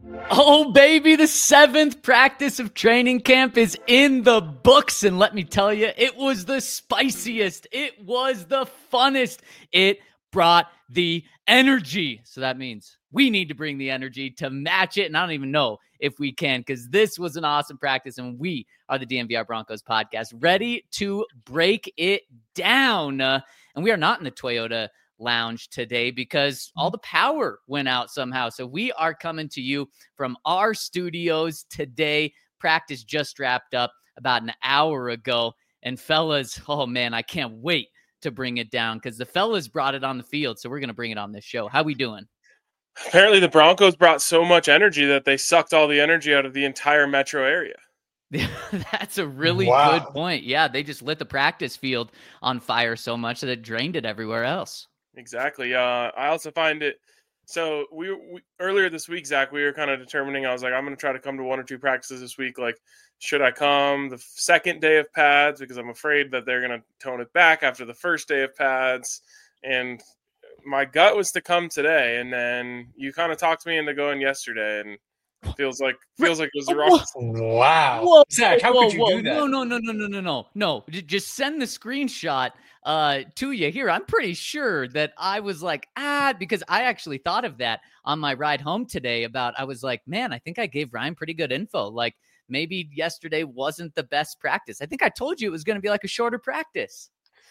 Oh, baby, the 7th practice of training camp is in the books. And let me tell you, it was the spiciest. It was the funnest. It brought the energy. So that means we need to bring the energy to match it. And I don't even know if we can, because this was an awesome practice. And we are the DNVR Broncos podcast, ready to break it down. And we are not in the Toyota lounge today because all the power went out somehow. So we are coming to you from our studios today. Practice just wrapped up about an hour ago. And fellas, oh man, I can't wait to bring it down because the fellas brought it on the field. So we're going to bring it on this show. How we doing? Apparently the Broncos brought so much energy that they sucked all the energy out of the entire metro area. That's a really good point. Yeah, they just lit the practice field on fire so much that it drained it everywhere else. Exactly. I also find it. So we earlier this week, Zach, we were kind of determining. I was like, I'm going to try to come to 1 or 2 practices this week. Like, should I come the second day of pads because I'm afraid that they're going to tone it back after the first day of pads? And my gut was to come today, and then you kind of talked me into going yesterday, and feels like it was the wrong. Wow, whoa, Zach, how could you do that? No. Just send the screenshot to you here. I'm pretty sure that I was like, because I actually thought of that on my ride home today. I was like, man, I think I gave Ryan pretty good info. Like maybe yesterday wasn't the best practice. I think I told you it was going to be like a shorter practice.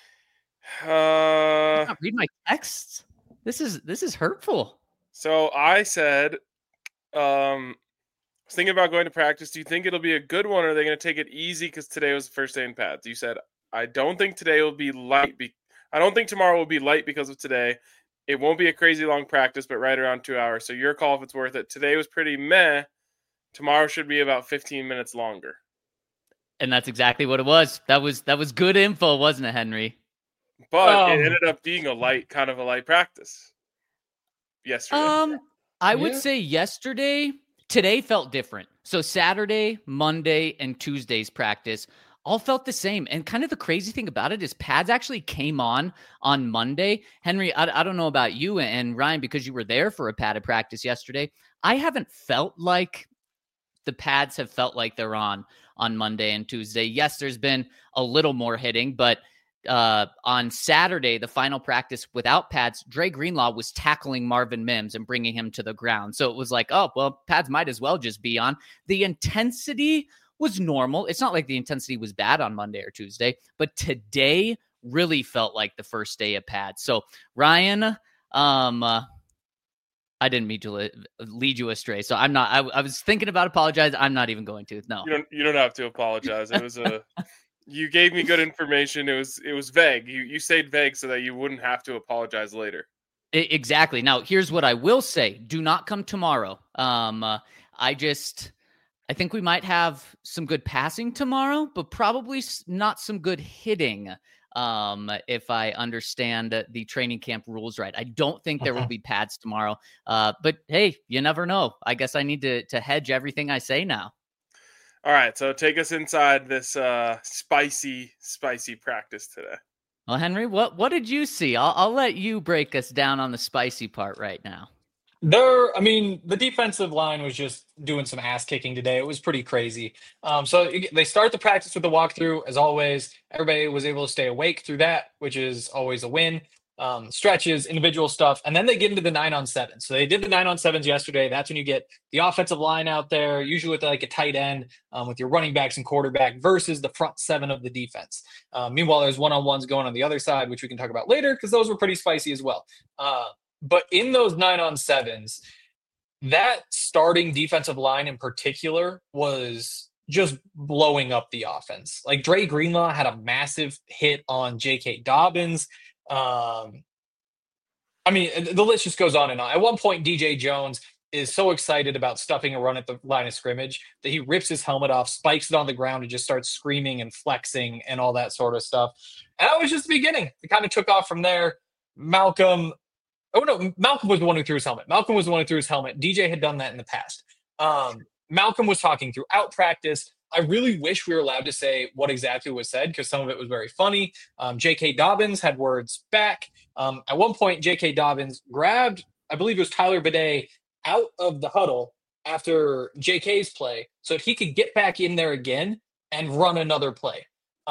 Not read my texts. This is hurtful. So I said, was thinking about going to practice. Do you think it'll be a good one, or are they going to take it easy because today was the first day in pads? You said, I don't think today will be light. I don't think tomorrow will be light because of today. It won't be a crazy long practice, but right around 2 hours. So your call if it's worth it. Today was pretty meh. Tomorrow should be about 15 minutes longer. And that's exactly what it was. That was good info, wasn't it, Henry? But it ended up being a light practice yesterday. I would say today felt different. So Saturday, Monday, and Tuesday's practice all felt the same. And kind of the crazy thing about it is pads actually came on Monday. Henry, I don't know about you and Ryan, because you were there for a padded practice yesterday. I haven't felt like the pads have felt like they're on Monday and Tuesday. Yes, there's been a little more hitting, but on Saturday, the final practice without pads, Dre Greenlaw was tackling Marvin Mims and bringing him to the ground. So it was like, oh, well, pads might as well just be on. The intensity was normal. It's not like the intensity was bad on Monday or Tuesday, but today really felt like the first day of pads. So Ryan, I didn't mean to lead you astray. So I'm not, I was thinking about apologizing. I'm not even going to. No, you don't have to apologize. It was you gave me good information. It was vague. You stayed vague so that you wouldn't have to apologize later. Exactly. Now, here's what I will say. Do not come tomorrow. I think we might have some good passing tomorrow, but probably not some good hitting. If I understand the training camp rules right. I don't think there will be pads tomorrow. But hey, you never know. I guess I need to hedge everything I say now. All right, so take us inside this spicy practice today. Well, Henry, what did you see? I'll let you break us down on the spicy part right now. The defensive line was just doing some ass kicking today. It was pretty crazy. So they start the practice with the walkthrough. As always, everybody was able to stay awake through that, which is always a win. Stretches, individual stuff, and then they get into the 9-on-7. So they did the 9-on-7s yesterday. That's when you get the offensive line out there, usually with like a tight end, with your running backs and quarterback versus the front 7 of the defense. Meanwhile, there's one-on-ones going on the other side, which we can talk about later because those were pretty spicy as well. But in those 9-on-7s, that starting defensive line in particular was just blowing up the offense. Like Dre Greenlaw had a massive hit on J.K. Dobbins. The list just goes on and on. At one point, DJ Jones is so excited about stuffing a run at the line of scrimmage that he rips his helmet off, spikes it on the ground, and just starts screaming and flexing and all that sort of stuff. And that was just the beginning. It kind of took off from there. Malcolm was the one who threw his helmet. DJ had done that in the past. Malcolm was talking throughout practice. I really wish we were allowed to say what exactly was said because some of it was very funny. J.K. Dobbins had words back. At one point, J.K. Dobbins grabbed, I believe it was Tyler Bidet, out of the huddle after JK's play so that he could get back in there again and run another play.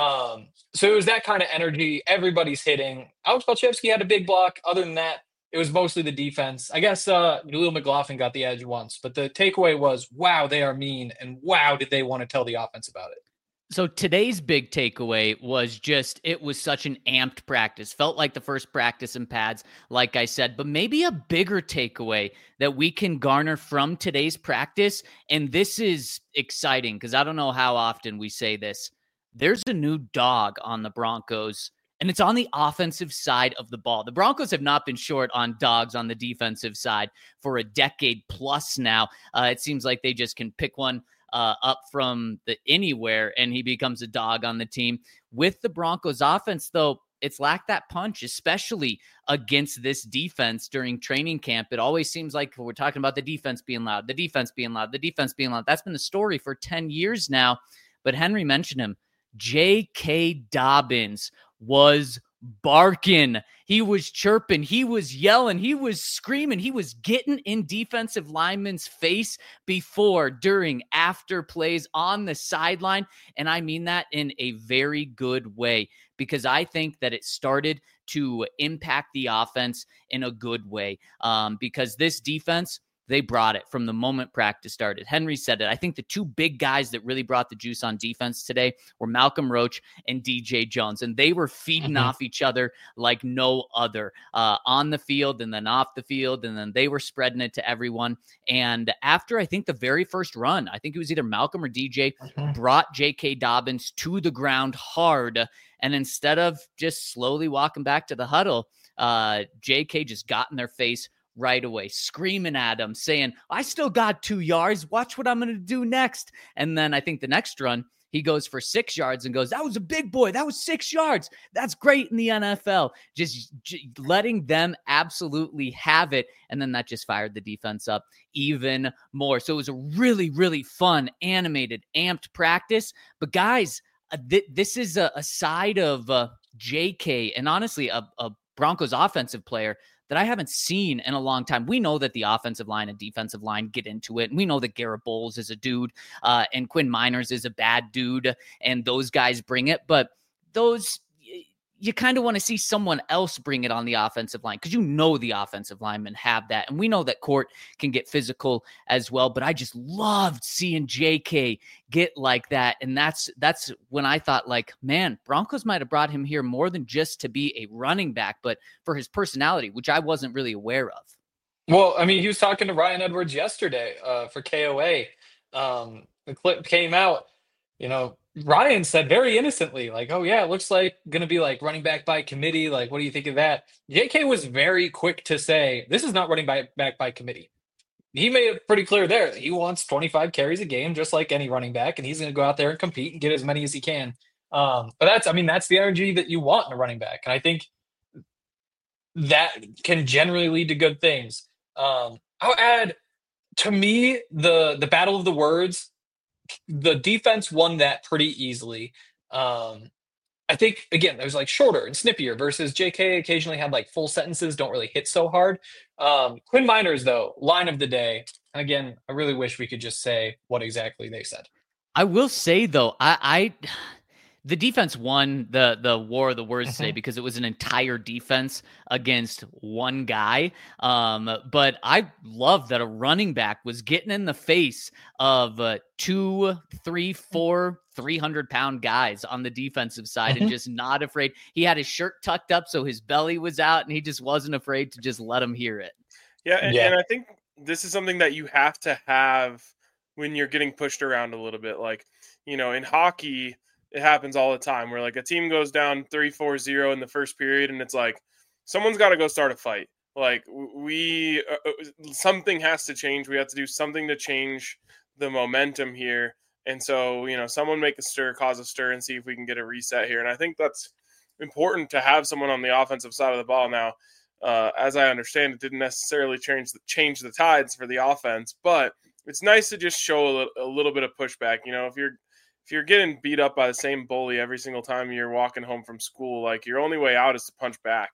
So it was that kind of energy. Everybody's hitting. Alex Balchevsky had a big block. Other than that, it was mostly the defense. I guess Jaleel McLaughlin got the edge once, but the takeaway was, wow, they are mean, and wow, did they want to tell the offense about it. So today's big takeaway was just, it was such an amped practice. Felt like the first practice in pads, like I said, but maybe a bigger takeaway that we can garner from today's practice. And this is exciting because I don't know how often we say this. There's a new dog on the Broncos, and it's on the offensive side of the ball. The Broncos have not been short on dogs on the defensive side for a decade plus now. It seems like they just can pick one up from the anywhere, and he becomes a dog on the team. With the Broncos offense, though, it's lacked that punch, especially against this defense during training camp. It always seems like we're talking about the defense being loud, the defense being loud, the defense being loud. That's been the story for 10 years now. But Henry mentioned him. J.K. Dobbins was barking. He was chirping. He was yelling. He was screaming. He was getting in defensive linemen's face before, during, after plays on the sideline. And I mean that in a very good way, because I think that it started to impact the offense in a good way, because this defense, they brought it from the moment practice started. Henry said it. I think the two big guys that really brought the juice on defense today were Malcolm Roach and DJ Jones, and they were feeding off each other like no other, on the field and then off the field, and then they were spreading it to everyone. And after, I think, the very first run, I think it was either Malcolm or DJ, brought J.K. Dobbins to the ground hard, and instead of just slowly walking back to the huddle, J.K. just got in their face right away, screaming at him, saying, I still got 2 yards. Watch what I'm going to do next. And then I think the next run, he goes for 6 yards and goes, that was a big boy. That was 6 yards. That's great in the NFL. Just letting them absolutely have it. And then that just fired the defense up even more. So it was a really, really fun, animated, amped practice. But guys, this is a side of JK, and honestly, a Broncos offensive player that I haven't seen in a long time. We know that the offensive line and defensive line get into it. And we know that Garrett Bowles is a dude, and Quinn Miners is a bad dude, and those guys bring it. But those, you kind of want to see someone else bring it on the offensive line, because you know the offensive linemen have that. And we know that Court can get physical as well. But I just loved seeing JK get like that. And that's when I thought, like, man, Broncos might have brought him here more than just to be a running back, but for his personality, which I wasn't really aware of. Well, I mean, he was talking to Ryan Edwards yesterday for KOA. The clip came out, Ryan said very innocently, like, oh yeah, it looks like going to be like running back by committee. Like, what do you think of that? JK was very quick to say, this is not running back by committee. He made it pretty clear there that he wants 25 carries a game, just like any running back, and he's going to go out there and compete and get as many as he can. But that's the energy that you want in a running back. And I think that can generally lead to good things. I'll add, to me, the battle of the words, the defense won that pretty easily. I think, again, it was like shorter and snippier versus JK occasionally had like full sentences, don't really hit so hard. Quinn Miners, though, line of the day. And again, I really wish we could just say what exactly they said. I will say, though, the defense won the war of the words today because it was an entire defense against one guy. But I love that a running back was getting in the face of 2, 3, 4, 300-pound guys on the defensive side and just not afraid. He had his shirt tucked up so his belly was out, and he just wasn't afraid to just let them hear it. Yeah, and I think this is something that you have to have when you're getting pushed around a little bit. Like, in hockey, it happens all the time where like a team goes down 3-4-0 in the first period, and it's like someone's got to go start a fight. Like something has to change. We have to do something to change the momentum here. And so, someone make a stir, cause a stir, and see if we can get a reset here. And I think that's important to have someone on the offensive side of the ball now. As I understand, it didn't necessarily change the tides for the offense, but it's nice to just show a little bit of pushback. If you're getting beat up by the same bully every single time you're walking home from school, like your only way out is to punch back.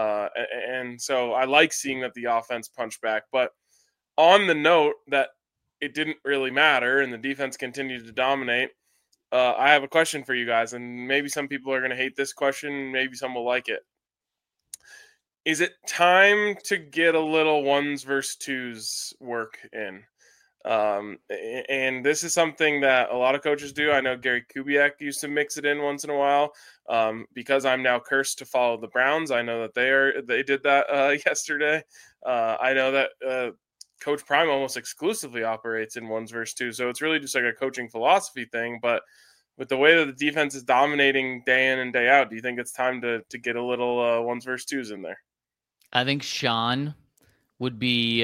And so I like seeing that the offense punched back. But on the note that it didn't really matter, and the defense continued to dominate. I have a question for you guys, and maybe some people are going to hate this question. Maybe some will like it. Is it time to get a little ones versus twos work in? And this is something that a lot of coaches do. I know Gary Kubiak used to mix it in once in a while. Because I'm now cursed to follow the Browns, I know that they did that yesterday. I know that Coach Prime almost exclusively operates in ones versus twos, so it's really just like a coaching philosophy thing. But with the way that the defense is dominating day in and day out, do you think it's time to get a little ones versus twos in there? I think Sean would be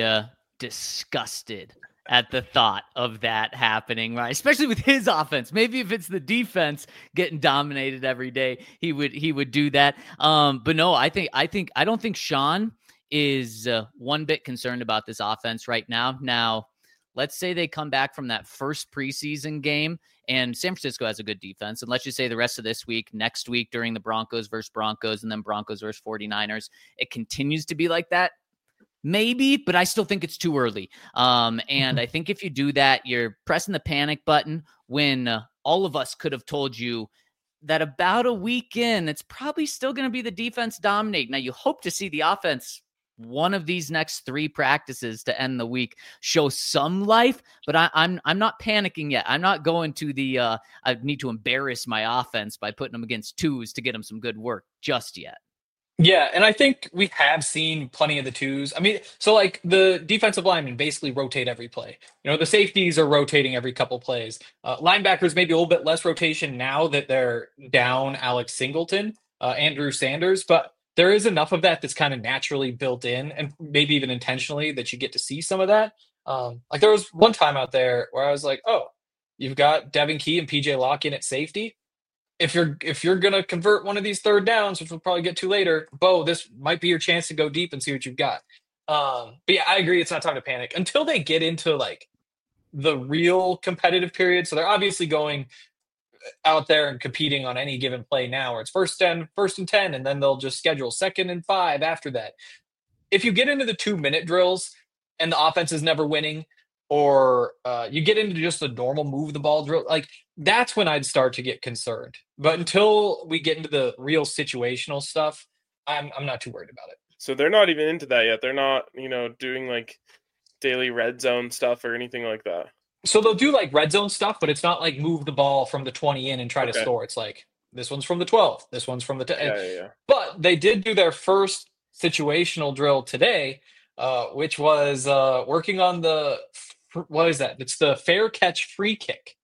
disgusted at the thought of that happening, right? Especially with his offense. Maybe if it's the defense getting dominated every day, he would do that. But no, I don't think Sean is one bit concerned about this offense right now. Now, let's say they come back from that first preseason game and San Francisco has a good defense. And let's just say the rest of this week, next week during the Broncos versus Broncos and then Broncos versus 49ers, it continues to be like that. Maybe, but I still think it's too early. And I think if you do that, you're pressing the panic button when all of us could have told you that about a week in, it's probably still going to be the defense dominate. Now, you hope to see the offense one of these next 3 practices to end the week show some life, but I'm not panicking yet. I'm not going to the I need to embarrass my offense by putting them against twos to get them some good work just yet. Yeah, and I think we have seen plenty of the twos. I mean, so like the defensive linemen basically rotate every play. You know, the safeties are rotating every couple plays. Linebackers maybe a little bit less rotation now that they're down Alex Singleton, Andrew Sanders, but there is enough of that that's kind of naturally built in and maybe even intentionally that you get to see some of that. Like there was one time out there where I was like, oh, you've got Devin Key and PJ Locke in at safety. If you're gonna convert one of these third downs, which we'll probably get to later, Bo, this might be your chance to go deep and see what you've got. But yeah, I agree. It's not time to panic until they get into like the real competitive period. So they're obviously going out there and competing on any given play now, where it's first and 10, and then they'll just schedule 2nd and 5 after that. If you get into the 2-minute drills and the offense is never winning, or you get into just the normal move the ball drill, like that's when I'd start to get concerned. But until we get into the real situational stuff, I'm not too worried about it. So they're not even into that yet. They're not, doing like daily red zone stuff or anything like that. So they'll do like red zone stuff, but it's not like move the ball from the 20 in and try to score. It's like this one's from the 12, this one's from the 10. Yeah. But they did do their first situational drill today, which was working on what is that? It's the fair catch free kick.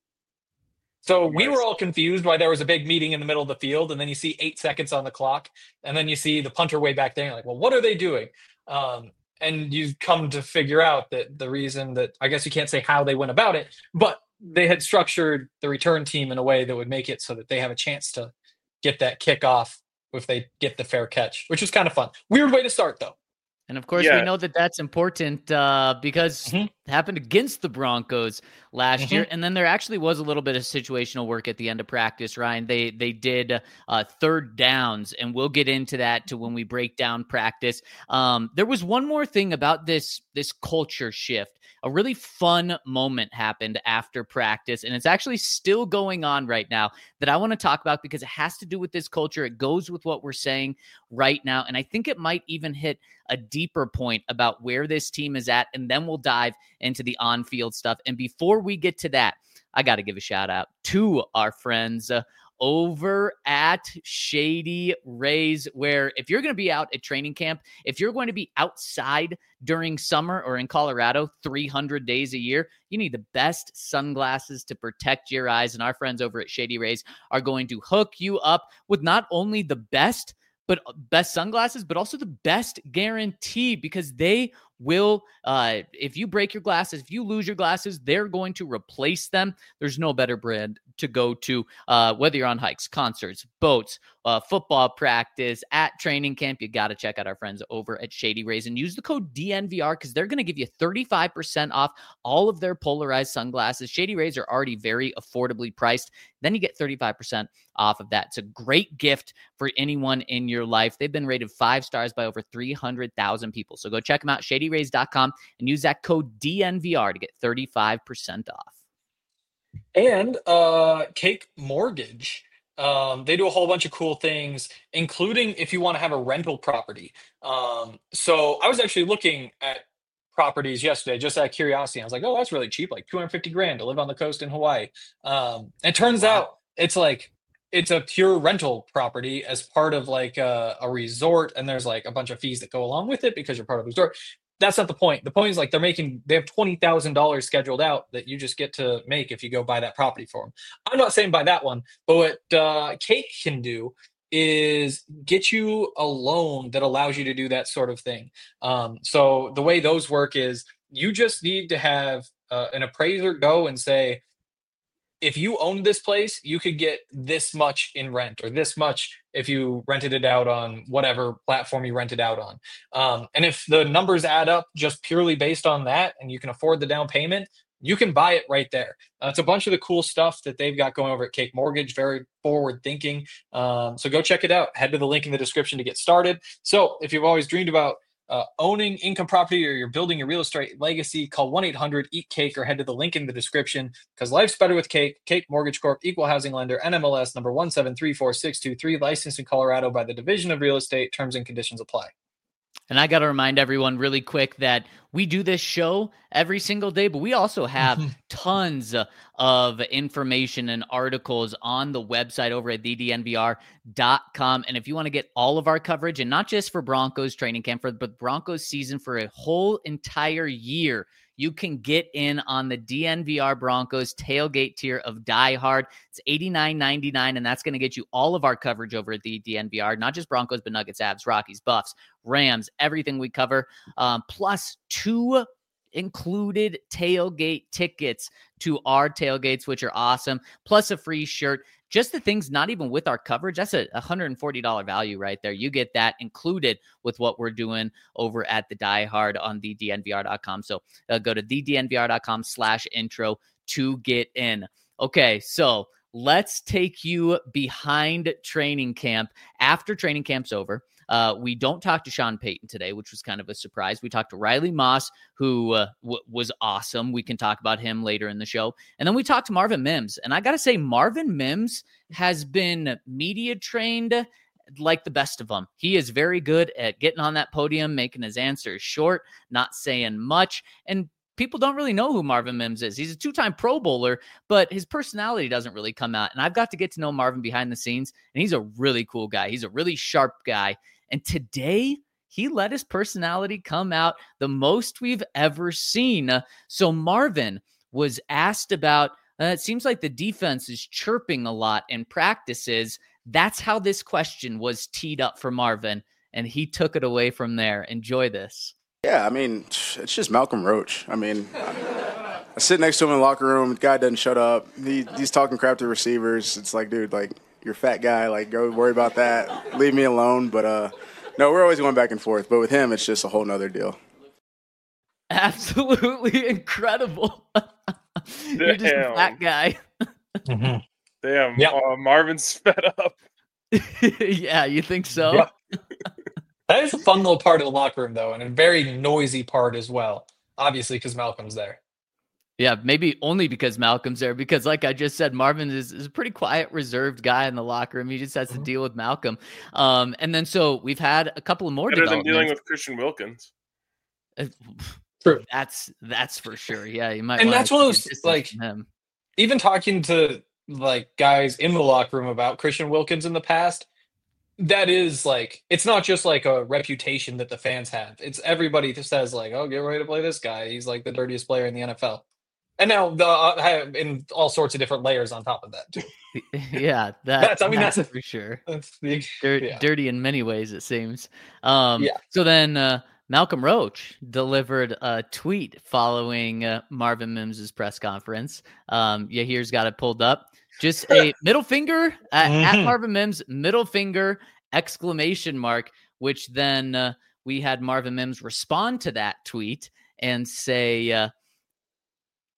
So we were all confused why there was a big meeting in the middle of the field, and then you see 8 seconds on the clock, and then you see the punter way back there, and you're like, well, what are they doing? And you come to figure out that the reason that, I guess you can't say how they went about it, but they had structured the return team in a way that would make it so that they have a chance to get that kickoff if they get the fair catch, which is kind of fun. Weird way to start, though. And of course, we know that that's important because it happened against the Broncos last year. And then there actually was a little bit of situational work at the end of practice, Ryan. They did third downs, and we'll get into that when we break down practice. There was one more thing about this culture shift. A really fun moment happened after practice, and it's actually still going on right now that I want to talk about because it has to do with this culture. It goes with what we're saying right now, and I think it might even hit a deeper point about where this team is at, and then we'll dive into the on-field stuff. And before we get to that, I got to give a shout out to our friends over at Shady Rays, where if you're going to be out at training camp, if you're going to be outside during summer or in Colorado 300 days a year, you need the best sunglasses to protect your eyes. And our friends over at Shady Rays are going to hook you up with not only the best sunglasses, but also the best guarantee, because they will, if you break your glasses, if you lose your glasses, they're going to replace them. There's no better brand to go to, whether you're on hikes, concerts, boats, football practice, at training camp. You got to check out our friends over at Shady Rays and use the code DNVR because they're going to give you 35% off all of their polarized sunglasses. Shady Rays are already very affordably priced. Then you get 35% off of that. It's a great gift for anyone in your life. They've been rated 5 stars by over 300,000 people. So go check them out, Shady cityrays.com and use that code DNVR to get 35% off. And Cake Mortgage. They do a whole bunch of cool things, including if you want to have a rental property. So I was actually looking at properties yesterday just out of curiosity. I was like, oh, that's really cheap, like 250 grand to live on the coast in Hawaii. It turns out it's a pure rental property as part of like a resort, and there's like a bunch of fees that go along with it because you're part of the resort. That's not the point. The point is like they have $20,000 scheduled out that you just get to make if you go buy that property for them. I'm not saying buy that one, but what Cake can do is get you a loan that allows you to do that sort of thing. So the way those work is you just need to have an appraiser go and say, if you owned this place, you could get this much in rent or this much if you rented it out on whatever platform you rented out on. And if the numbers add up just purely based on that and you can afford the down payment, you can buy it right there. It's a bunch of the cool stuff that they've got going over at Cake Mortgage, very forward thinking. So go check it out. Head to the link in the description to get started. So if you've always dreamed about owning income property or you're building a real estate legacy, call 1-800-EAT-CAKE or head to the link in the description, because life's better with Cake. Cake Mortgage Corp, equal housing lender, NMLS number 1734623, licensed in Colorado by the Division of Real Estate. Terms and conditions apply. And I got to remind everyone really quick that we do this show every single day, but we also have tons of information and articles on the website over at thednvr.com. And if you want to get all of our coverage, and not just for Broncos training camp, but Broncos season for a whole entire year, you can get in on the DNVR Broncos tailgate tier of Die Hard. It's $89.99, and that's going to get you all of our coverage over at the DNVR, not just Broncos, but Nuggets, Abs, Rockies, Buffs, Rams, everything we cover, plus 2 included tailgate tickets to our tailgates, which are awesome, plus a free shirt. Just the things not even with our coverage, that's a $140 value right there. You get that included with what we're doing over at the Die Hard on thednvr.com. So go to thednvr.com/intro to get in. Okay, so let's take you behind training camp. After training camp's over, we don't talk to Sean Payton today, which was kind of a surprise. We talked to Riley Moss, who was awesome. We can talk about him later in the show. And then we talked to Marvin Mims. And I got to say, Marvin Mims has been media trained like the best of them. He is very good at getting on that podium, making his answers short, not saying much. And people don't really know who Marvin Mims is. He's a 2-time Pro Bowler, but his personality doesn't really come out. And I've got to get to know Marvin behind the scenes, and he's a really cool guy. He's a really sharp guy. And today, he let his personality come out the most we've ever seen. So Marvin was asked about, it seems like the defense is chirping a lot in practices. That's how this question was teed up for Marvin, and he took it away from there. Enjoy this. Yeah, I mean, it's just Malcolm Roach. I mean, I sit next to him in the locker room. The guy doesn't shut up. He's talking crap to receivers. It's like, dude, like, you're a fat guy. Like, go worry about that. Leave me alone. But, no, we're always going back and forth. But with him, it's just a whole nother deal. Absolutely incredible. You're just a fat guy. Damn, yep. Marvin's fed up. Yeah, you think so? Yep. That is a fun little part of the locker room, though, and a very noisy part as well, obviously, because Malcolm's there. Yeah, maybe only because Malcolm's there, because like I just said, Marvin is a pretty quiet, reserved guy in the locker room. He just has to deal with Malcolm. And then so we've had a couple of more better than dealing with Christian Wilkins. True. That's for sure. Yeah, you might. And that's one of those, like, even talking to like guys in the locker room about Christian Wilkins in the past, that is like, it's not just like a reputation that the fans have. It's everybody that says like, oh, get ready to play this guy. He's like the dirtiest player in the NFL. And now in all sorts of different layers on top of that too. Yeah, that's for sure. That's dirty in many ways, it seems. So then Malcolm Roach delivered a tweet following Marvin Mims' press conference. Yahir's got it pulled up. Just a middle finger at Marvin Mims, middle finger, exclamation mark, which then we had Marvin Mims respond to that tweet and say,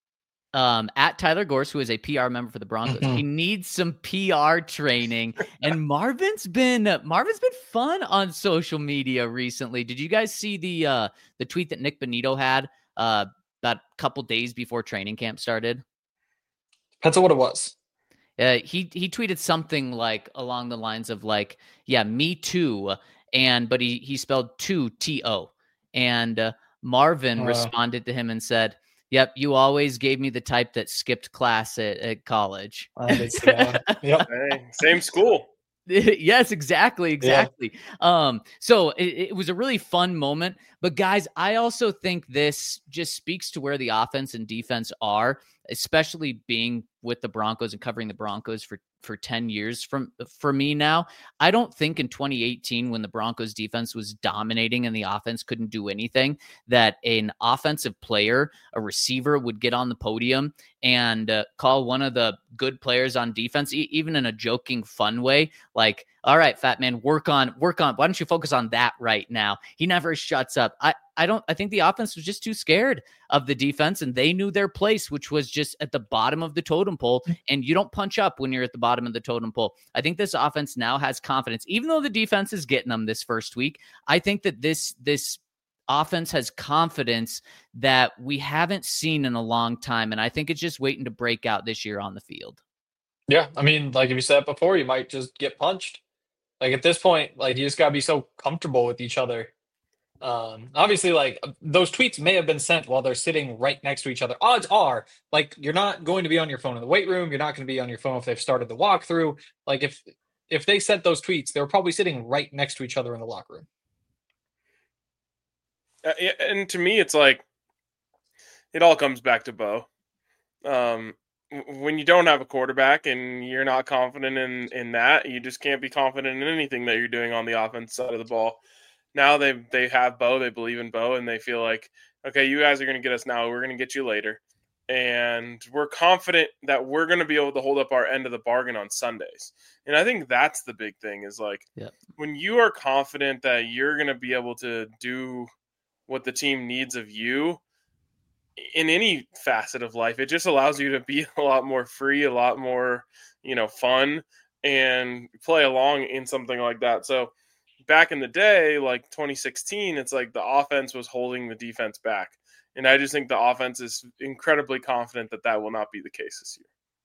at Tyler Gorse, who is a PR member for the Broncos. He needs some PR training. And Marvin's been fun on social media recently. Did you guys see the tweet that Nick Bonito had about a couple days before training camp started? Depends on what it was. He tweeted something like along the lines of like, yeah, me too. But he spelled two T-O. And Marvin responded to him and said, yep, you always gave me the type that skipped class at college. Yep. Hey, same school. Yes, exactly. Yeah. So it was a really fun moment. But guys, I also think this just speaks to where the offense and defense are, especially being with the Broncos and covering the Broncos for 10 years for me now. I don't think in 2018, when the Broncos defense was dominating and the offense couldn't do anything, that an offensive player, a receiver, would get on the podium and call one of the good players on defense, even in a joking, fun way, like, all right, fat man, work on. Why don't you focus on that right now? He never shuts up. I think the offense was just too scared of the defense, and they knew their place, which was just at the bottom of the totem pole. And you don't punch up when you're at the bottom of the totem pole. I think this offense now has confidence, even though the defense is getting them this first week. I think that this offense has confidence that we haven't seen in a long time. And I think it's just waiting to break out this year on the field. Yeah. I mean, like if you said before, you might just get punched. Like at this point, like you just gotta be so comfortable with each other. Obviously, like those tweets may have been sent while they're sitting right next to each other. Odds are, like, you're not going to be on your phone in the weight room. You're not going to be on your phone if they've started the walkthrough. Like if they sent those tweets, they were probably sitting right next to each other in the locker room. And to me, it's like it all comes back to Bo. When you don't have a quarterback and you're not confident in that, you just can't be confident in anything that you're doing on the offense side of the ball. Now they have Bo, they believe in Bo, and they feel like, okay, you guys are going to get us now, we're going to get you later. And we're confident that we're going to be able to hold up our end of the bargain on Sundays. And I think that's the big thing is like, when you are confident that you're going to be able to do what the team needs of you in any facet of life, it just allows you to be a lot more free, a lot more, fun, and play along in something like that. So back in the day, like 2016, it's like the offense was holding the defense back. And I just think the offense is incredibly confident that will not be the case this year.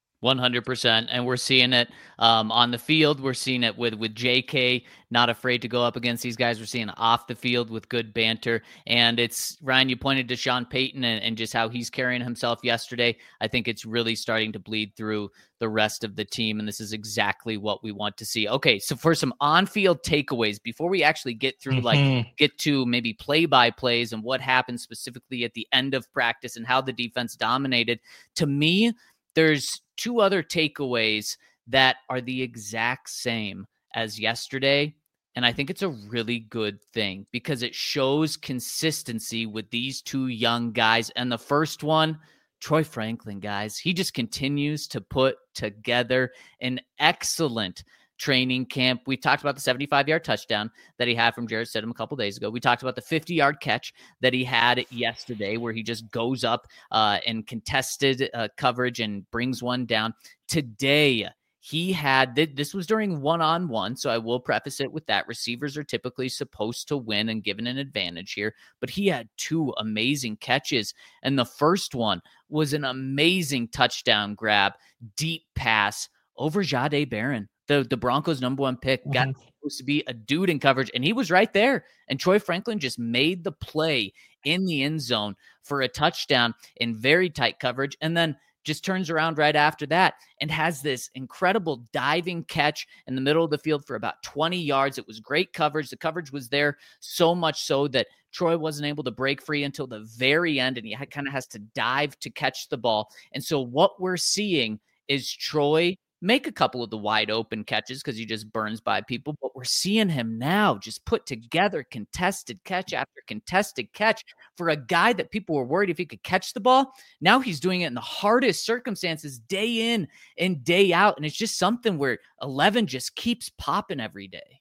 100%. And we're seeing it on the field. We're seeing it with JK, not afraid to go up against these guys. We're seeing it off the field with good banter. And it's, Ryan, you pointed to Sean Payton and just how he's carrying himself yesterday. I think it's really starting to bleed through the rest of the team. And this is exactly what we want to see. Okay, so for some on-field takeaways, before we actually get through, get to maybe play-by-plays and what happened specifically at the end of practice and how the defense dominated, to me, there's two other takeaways that are the exact same as yesterday. And I think it's a really good thing because it shows consistency with these two young guys. And the first one, Troy Franklin, guys, he just continues to put together an excellent training camp. We talked about the 75-yard touchdown that he had from Jarrett Stidham a couple days ago. We talked about the 50-yard catch that he had yesterday where he just goes up and contested coverage and brings one down. Today, he had, this was during one-on-one, so I will preface it with that. Receivers are typically supposed to win and given an advantage here, but he had two amazing catches, and the first one was an amazing touchdown grab, deep pass over Jahdae Barron. The Broncos' number one pick got supposed to be a dude in coverage, and he was right there. And Troy Franklin just made the play in the end zone for a touchdown in very tight coverage, and then just turns around right after that and has this incredible diving catch in the middle of the field for about 20 yards. It was great coverage. The coverage was there so much so that Troy wasn't able to break free until the very end, and he kind of has to dive to catch the ball. And so what we're seeing is Troy make a couple of the wide open catches because he just burns by people, but we're seeing him now just put together contested catch after contested catch for a guy that people were worried if he could catch the ball. Now he's doing it in the hardest circumstances day in and day out. And it's just something where 11 just keeps popping every day.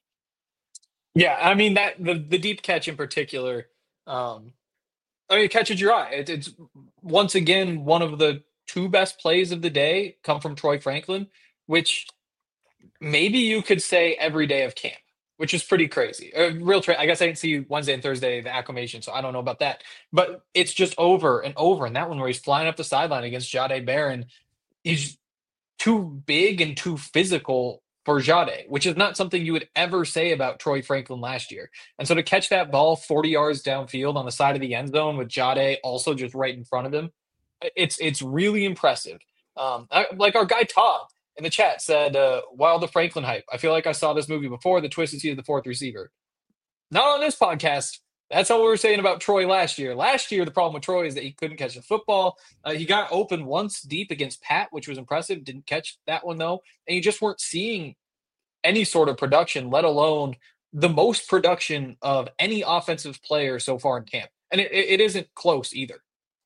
Yeah. I mean, that the deep catch in particular, it catches your eye. It's once again, one of the two best plays of the day come from Troy Franklin, which maybe you could say every day of camp, which is pretty crazy. I guess I didn't see Wednesday and Thursday, the acclimation, so I don't know about that. But it's just over and over. And that one where he's flying up the sideline against Jahdae Barron, he's too big and too physical for Jahdae, which is not something you would ever say about Troy Franklin last year. And so to catch that ball 40 yards downfield on the side of the end zone with Jahdae also just right in front of him, it's really impressive. Like our guy Todd in the chat said, "Wild the Franklin hype. I feel like I saw this movie before. The twist is he's the fourth receiver." Not on this podcast. That's what we were saying about Troy last year. Last year, the problem with Troy is that he couldn't catch the football. He got open once deep against Pat, which was impressive. Didn't catch that one, though. And you just weren't seeing any sort of production, let alone the most production of any offensive player so far in camp. And it isn't close either.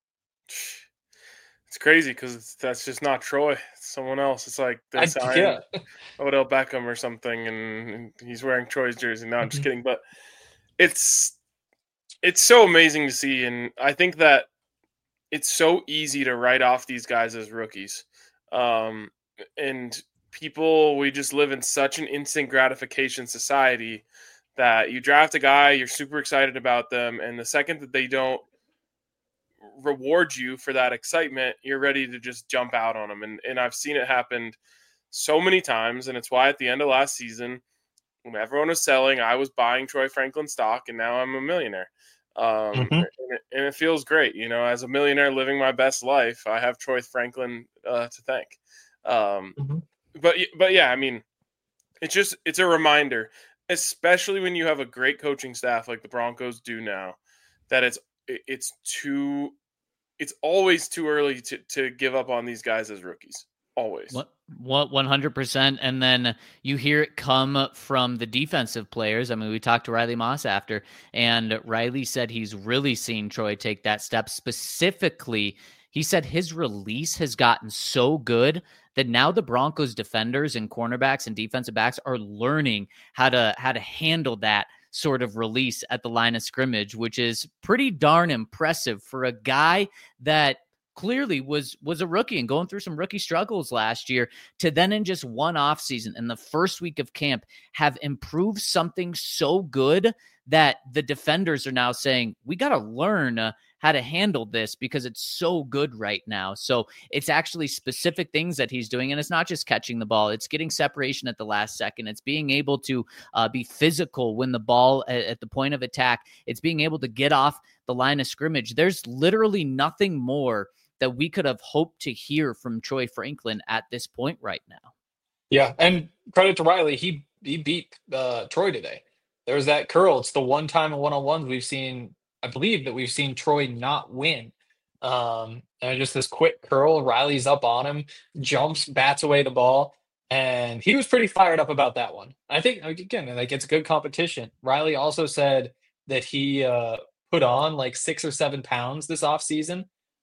It's crazy because that's just not Troy. It's someone else. It's like they signed Odell Beckham or something, and he's wearing Troy's jersey. No, I'm just kidding. But it's so amazing to see, and I think that it's so easy to write off these guys as rookies. And we just live in such an instant gratification society that you draft a guy, you're super excited about them, and the second that they don't reward you for that excitement, you're ready to just jump out on them. And I've seen it happen so many times, and it's why at the end of last season, when everyone was selling, I was buying Troy Franklin stock, and now I'm a millionaire. And it feels great, as a millionaire living my best life. I have Troy Franklin to thank. But yeah, I mean, it's a reminder, especially when you have a great coaching staff like the Broncos do now, that it's always too early to give up on these guys as rookies. Always. 100%. And then you hear it come from the defensive players. I mean, we talked to Riley Moss after, and Riley said he's really seen Troy take that step. Specifically, he said his release has gotten so good that now the Broncos defenders and cornerbacks and defensive backs are learning how to handle that sort of release at the line of scrimmage, which is pretty darn impressive for a guy that clearly was a rookie and going through some rookie struggles last year, to then in just one offseason in the first week of camp have improved something so good that the defenders are now saying, we got to learn how to handle this because it's so good right now. So it's actually specific things that he's doing. And it's not just catching the ball. It's getting separation at the last second. It's being able to be physical when the ball at the point of attack. It's being able to get off the line of scrimmage. There's literally nothing more that we could have hoped to hear from Troy Franklin at this point right now. Yeah, and credit to Riley. He beat Troy today. There's that curl. It's the one time in one-on-ones we've seen, I believe, that we've seen Troy not win. And just this quick curl, Riley's up on him, jumps, bats away the ball, and he was pretty fired up about that one. I think, again, like, it's good competition. Riley also said that he put on like 6 or 7 pounds this offseason.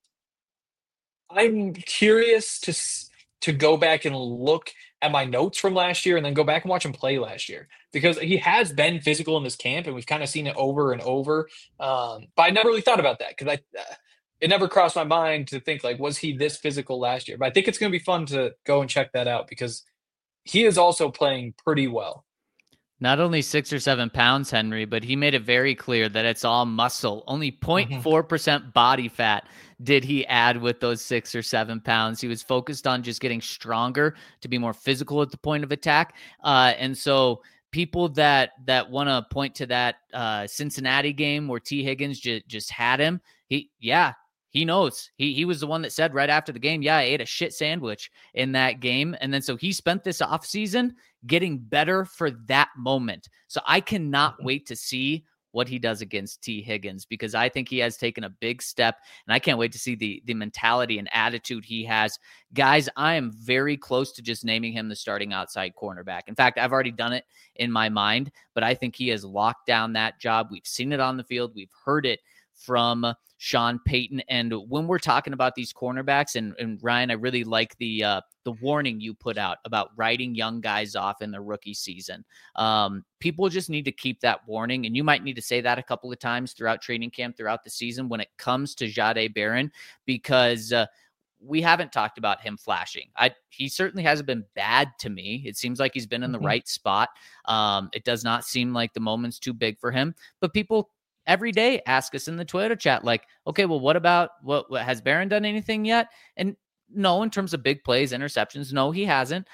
I'm curious to go back and look at my notes from last year and then go back and watch him play last year, because he has been physical in this camp and we've kind of seen it over and over. But I never really thought about that because it never crossed my mind to think, like, was he this physical last year? But I think it's going to be fun to go and check that out because he is also playing pretty well. Not only 6 or 7 pounds, Henry, but he made it very clear that it's all muscle. Only 0.4% body fat did he add with those 6 or 7 pounds. He was focused on just getting stronger to be more physical at the point of attack. And so people that want to point to that Cincinnati game where T. Higgins just had him, he knows. He was the one that said right after the game, I ate a shit sandwich in that game. And then so he spent this offseason getting better for that moment. So I cannot wait to see what he does against T. Higgins, because I think he has taken a big step, and I can't wait to see the mentality and attitude he has. Guys, I am very close to just naming him the starting outside cornerback. In fact, I've already done it in my mind, but I think he has locked down that job. We've seen it on the field. We've heard it from Sean Payton. And when we're talking about these cornerbacks, and Ryan, I really like the warning you put out about writing young guys off in their rookie season. People just need to keep that warning, and you might need to say that a couple of times throughout training camp, throughout the season when it comes to Jahdae Barron, because we haven't talked about him flashing. He certainly hasn't been bad to me. It seems like he's been in the right spot. It does not seem like the moment's too big for him, but people every day ask us in the Twitter chat, like, okay, well, what about what has Barron done anything yet? And no, in terms of big plays, interceptions, no, he hasn't.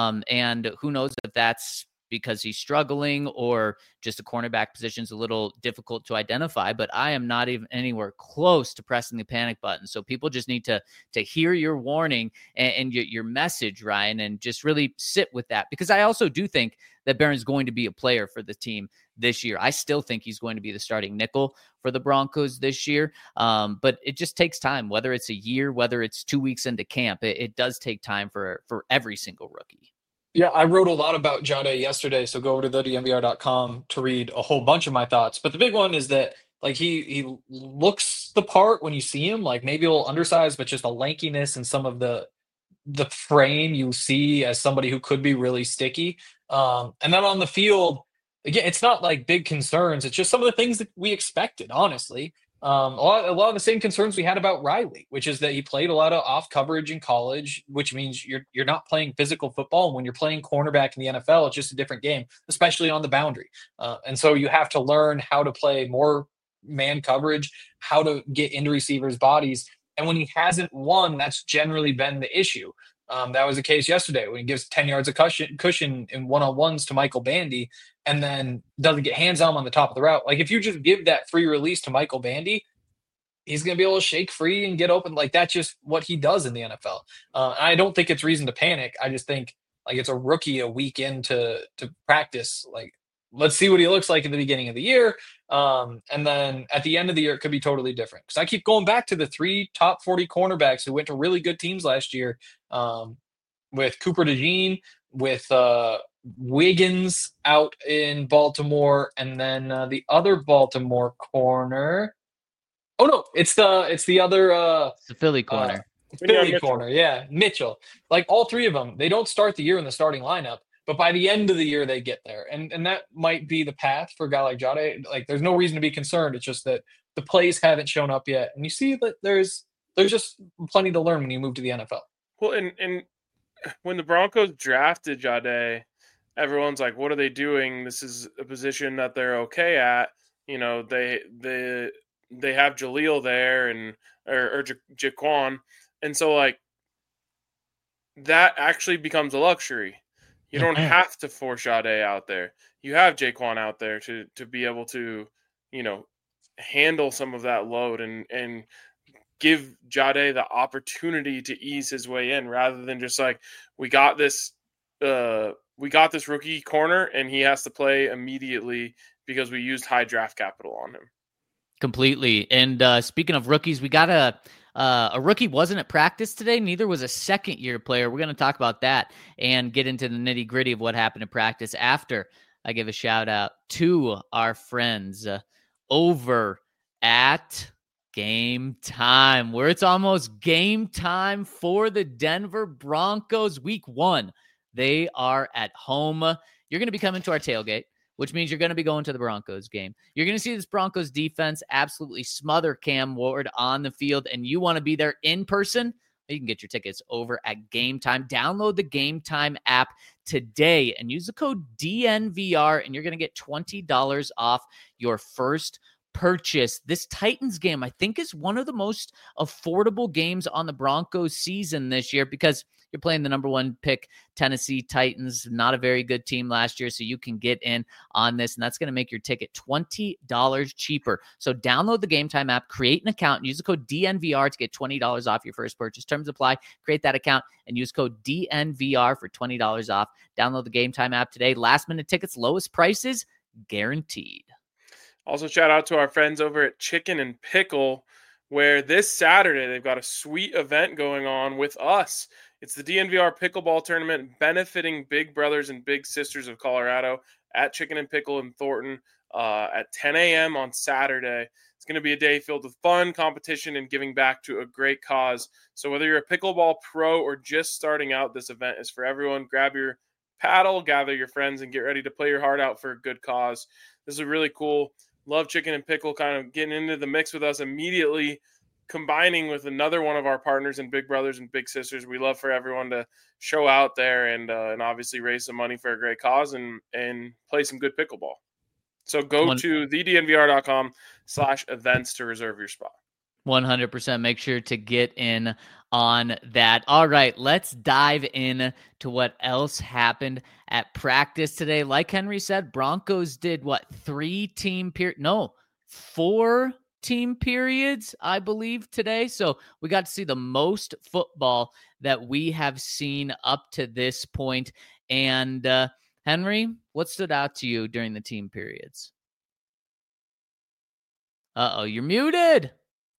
And who knows if that's because he's struggling or just the cornerback position is a little difficult to identify, but I am not even anywhere close to pressing the panic button. So people just need to hear your warning and your message, Ryan, and just really sit with that, because I also do think that Barron's going to be a player for the team this year. I still think he's going to be the starting nickel for the Broncos this year. But it just takes time, whether it's a year, whether it's 2 weeks into camp, it does take time for every single rookie. Yeah, I wrote a lot about Jade yesterday, so go over to thednvr.com to read a whole bunch of my thoughts. But the big one is that like he looks the part when you see him, like maybe a little undersized, but just a lankiness and some of the frame you see as somebody who could be really sticky. And then on the field, again, it's not like big concerns. It's just some of the things that we expected, honestly. A lot of the same concerns we had about Riley, which is that he played a lot of off coverage in college, which means you're not playing physical football. And when you're playing cornerback in the NFL, it's just a different game, especially on the boundary. And so you have to learn how to play more man coverage, how to get into receivers' bodies. And when he hasn't won, that's generally been the issue. That was the case yesterday when he gives 10 yards of cushion in one-on-ones to Michael Bandy and then doesn't get hands on him on the top of the route. Like if you just give that free release to Michael Bandy, he's going to be able to shake free and get open. Like that's just what he does in the NFL. I don't think it's reason to panic. I just think like it's a rookie a week into practice. Like let's see what he looks like at the beginning of the year. And then at the end of the year, it could be totally different. Because I keep going back to the 3 top 40 cornerbacks who went to really good teams last year, with Cooper DeJean, with Wiggins out in Baltimore, and then the other Baltimore corner. Oh no, it's the other the Philly corner. Philly corner, yeah, Mitchell. Like all 3 of them, they don't start the year in the starting lineup. But by the end of the year, they get there. And that might be the path for a guy like Jade. Like, there's no reason to be concerned. It's just that the plays haven't shown up yet. And you see that there's just plenty to learn when you move to the NFL. Well, and when the Broncos drafted Jade, everyone's like, what are they doing? This is a position that they're okay at. You know, they have Jaleel there or Jaquan. And so, like, that actually becomes a luxury. You don't have to force Jade out there. You have Jaquan out there to be able to, you know, handle some of that load and give Jade the opportunity to ease his way in rather than just like, we got this rookie corner and he has to play immediately because we used high draft capital on him. Completely. And speaking of rookies, we got a rookie wasn't at practice today. Neither was a second-year player. We're going to talk about that and get into the nitty-gritty of what happened in practice after I give a shout-out to our friends over at Game Time, where it's almost game time for the Denver Broncos week 1. They are at home. You're going to be coming to our tailgate, which means you're going to be going to the Broncos game. You're going to see this Broncos defense absolutely smother Cam Ward on the field, and you want to be there in person. You can get your tickets over at Game Time. Download the Game Time app today and use the code DNVR, and you're going to get $20 off your first purchase. This Titans game, I think, is one of the most affordable games on the Broncos season this year because you're playing the number 1 pick Tennessee Titans, not a very good team last year, so you can get in on this, and that's going to make your ticket $20 cheaper. So download the Game Time app, create an account, and use the code DNVR to get $20 off your first purchase. Terms apply. Create that account and use code DNVR for $20 off. Download the Game Time app today. Last-minute tickets, lowest prices, guaranteed. Also, shout out to our friends over at Chicken and Pickle, where this Saturday they've got a sweet event going on with us. It's the DNVR Pickleball Tournament benefiting Big Brothers and Big Sisters of Colorado at Chicken and Pickle in Thornton at 10 a.m. on Saturday. It's going to be a day filled with fun, competition, and giving back to a great cause. So whether you're a pickleball pro or just starting out, this event is for everyone. Grab your paddle, gather your friends, and get ready to play your heart out for a good cause. This is really cool. Love Chicken and Pickle kind of getting into the mix with us immediately combining with another one of our partners and big brothers and big sisters. We love for everyone to show out there and obviously raise some money for a great cause and play some good pickleball. So go to thednvr.com/events to reserve your spot. 100%. Make sure to get in on that. All right, let's dive in to what else happened at practice today. Like Henry said, Broncos did what? 4 team periods, I believe, today. So we got to see the most football that we have seen up to this point. And Henry, what stood out to you during the team periods? Uh-oh, you're muted.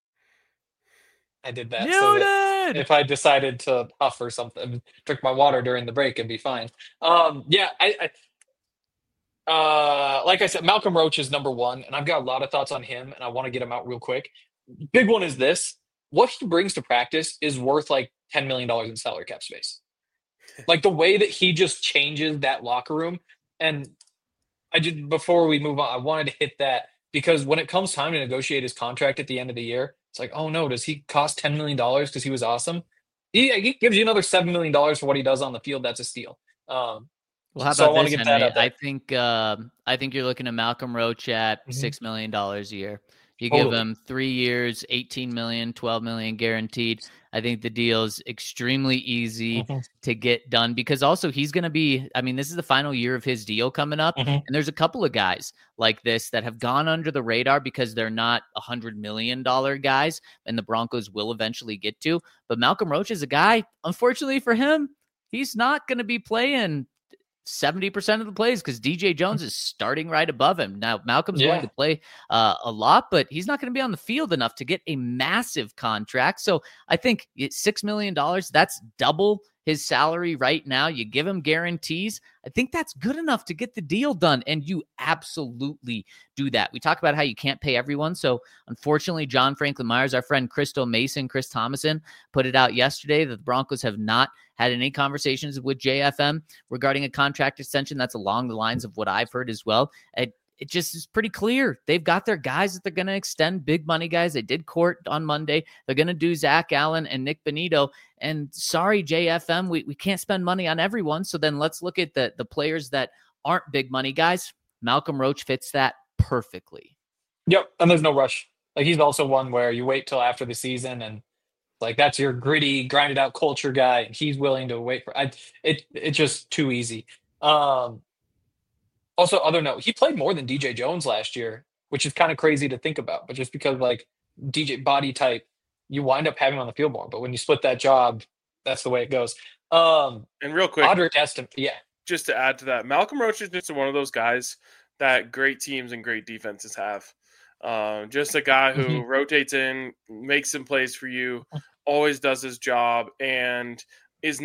I did that. Muted! So that if I decided to huff or something, drink my water during the break, it'd be fine. Yeah, like I said, Malcolm Roach is number one, and I've got a lot of thoughts on him, and I want to get him out real quick. Big one is this. What he brings to practice is worth like $10 million in salary cap space. Like the way that he just changes that locker room. And before we move on, I wanted to hit that because when it comes time to negotiate his contract at the end of the year, it's like, oh no, does he cost $10 million because he was awesome? He gives you another $7 million for what he does on the field. That's a steal. Well, how about this, Henry? I think you're looking at Malcolm Roach at $6 million a year. You give him 3 years, $18 million, $12 million guaranteed. I think the deal's extremely easy to get done because also he's going to be, I mean, this is the final year of his deal coming up. And there's a couple of guys like this that have gone under the radar because they're not $100 million guys and the Broncos will eventually get to. But Malcolm Roach is a guy, unfortunately for him, he's not going to be playing 70% of the plays because DJ Jones is starting right above him. Now, Malcolm's going to play a lot, but he's not going to be on the field enough to get a massive contract. So I think $6 million, that's double his salary right now. You give him guarantees. I think that's good enough to get the deal done, and you absolutely do that. We talk about how you can't pay everyone. So unfortunately, John Franklin Myers, our friend Crystal Mason, Chris Thomason, put it out yesterday that the Broncos have not had any conversations with JFM regarding a contract extension. That's along the lines of what I've heard as well. It just is pretty clear. They've got their guys that they're going to extend, big money guys. They did court on Monday. They're going to do Zach Allen and Nick Benito. And sorry, JFM, we can't spend money on everyone. So then let's look at the players that aren't big money guys. Malcolm Roach fits that perfectly. Yep, and there's no rush. Like he's also one where you wait till after the season and like that's your gritty, grinded out culture guy. And he's willing to wait for it's just too easy. Also, other note, he played more than DJ Jones last year, which is kind of crazy to think about. But just because like DJ body type, you wind up having him on the field more. But when you split that job, that's the way it goes. And real quick, Audric Estimé, just to add to that, Malcolm Roach is just one of those guys that great teams and great defenses have. Just a guy who rotates in, makes some plays for you, always does his job, and is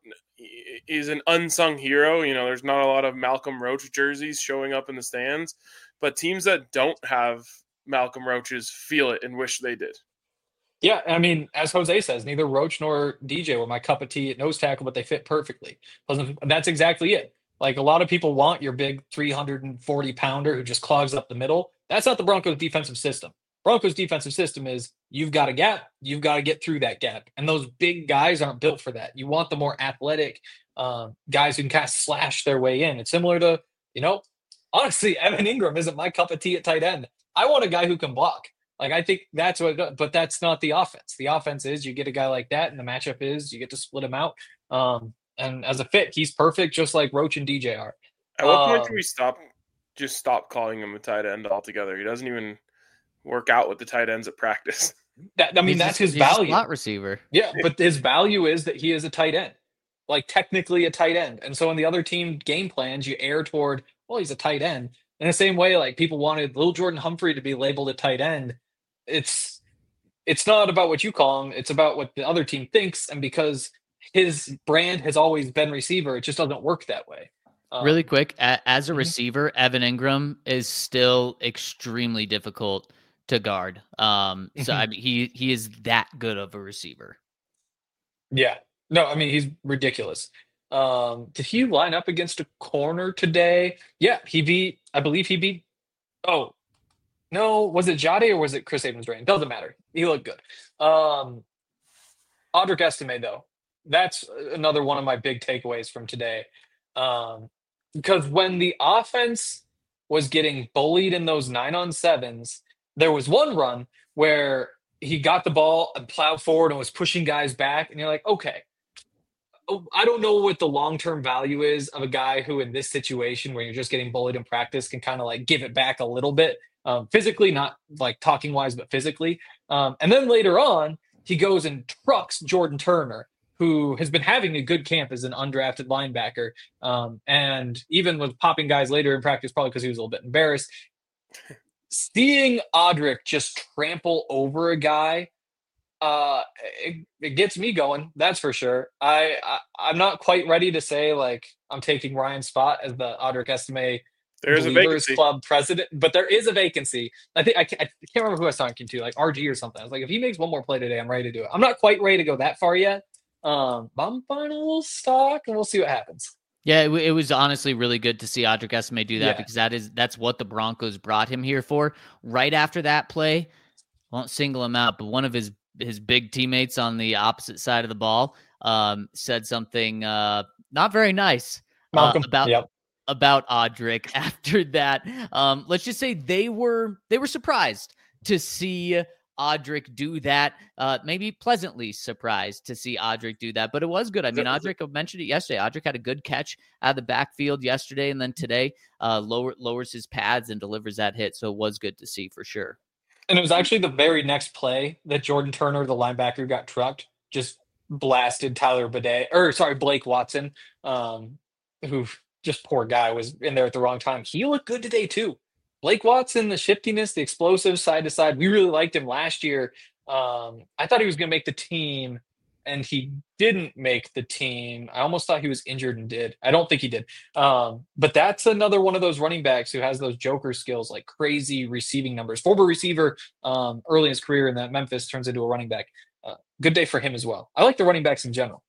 an unsung hero. You know, there's not a lot of Malcolm Roach jerseys showing up in the stands, but teams that don't have Malcolm Roaches feel it and wish they did. Yeah, I mean, as Jose says, neither Roach nor DJ were my cup of tea at nose tackle, but they fit perfectly. That's exactly it. Like a lot of people want your big 340-pounder who just clogs up the middle. That's not the Broncos' defensive system. Broncos' defensive system is you've got a gap, you've got to get through that gap. And those big guys aren't built for that. You want the more athletic guys who can kind of slash their way in. It's similar to, honestly, Evan Ingram isn't my cup of tea at tight end. I want a guy who can block. Like, I think that's but that's not the offense. The offense is you get a guy like that, and the matchup is you get to split him out. And as a fit, he's perfect, just like Roach and DJ are. At what point do we stop calling him a tight end altogether? He doesn't even work out with the tight ends at practice. That's his value. He's a slot receiver. Yeah, but his value is that he is a tight end, like technically a tight end. And so in the other team game plans, you err toward, well, he's a tight end. In the same way, like people wanted Lil Jordan Humphrey to be labeled a tight end. It's not about what you call him. It's about what the other team thinks. And because his brand has always been receiver, it just doesn't work that way. Really quick, as a receiver, Evan Ingram is still extremely difficult to guard. So I mean, he is that good of a receiver. Yeah. No, I mean, he's ridiculous. Did he line up against a corner today? Yeah, I believe he beat. Oh, No, was it Jade or was it Chris Abrams-Drain? Doesn't matter. He looked good. Audric Estime, though, that's another one of my big takeaways from today. Because when the offense was getting bullied in those 9-on-7s, there was one run where he got the ball and plowed forward and was pushing guys back. And you're like, okay, I don't know what the long-term value is of a guy who in this situation where you're just getting bullied in practice can kind of like give it back a little bit physically, not like talking wise, but physically. And then later on, he goes and trucks Jordan Turner, who has been having a good camp as an undrafted linebacker. And even was popping guys later in practice, probably because he was a little bit embarrassed. Seeing Audric just trample over a guy, it gets me going. That's for sure. I'm not quite ready to say like I'm taking Ryan's spot as the Audric Estime There's a Believers vacancy. Club president, but there is a vacancy. I think I can't remember who I was talking to, like RG or something. I was like, if he makes one more play today, I'm ready to do it. I'm not quite ready to go that far yet. But I'm buying a little stock, and we'll see what happens. Yeah, it was honestly really good to see Audric Estime do that Yeah. because that's what the Broncos brought him here for. Right after that play, won't single him out, but one of his big teammates on the opposite side of the ball said something not very nice Malcolm, about Audric after that. Let's just say they were surprised to see Audric do that. Maybe pleasantly surprised to see Audric do that, but it was good. I mean, Audric, I mentioned it yesterday. Audric had a good catch out of the backfield yesterday, and then today lowers his pads and delivers that hit. So it was good to see for sure. And it was actually the very next play that Jordan Turner, the linebacker, got trucked, just blasted Blake Watson, who just poor guy was in there at the wrong time. He looked good today too. Blake Watson, the shiftiness, the explosive side to side. We really liked him last year. I thought he was going to make the team, and he didn't make the team. I almost thought he was injured and did. I don't think he did. But that's another one of those running backs who has those joker skills, like crazy receiving numbers. Former receiver early in his career in that Memphis turns into a running back. Good day for him as well. I like the running backs in general.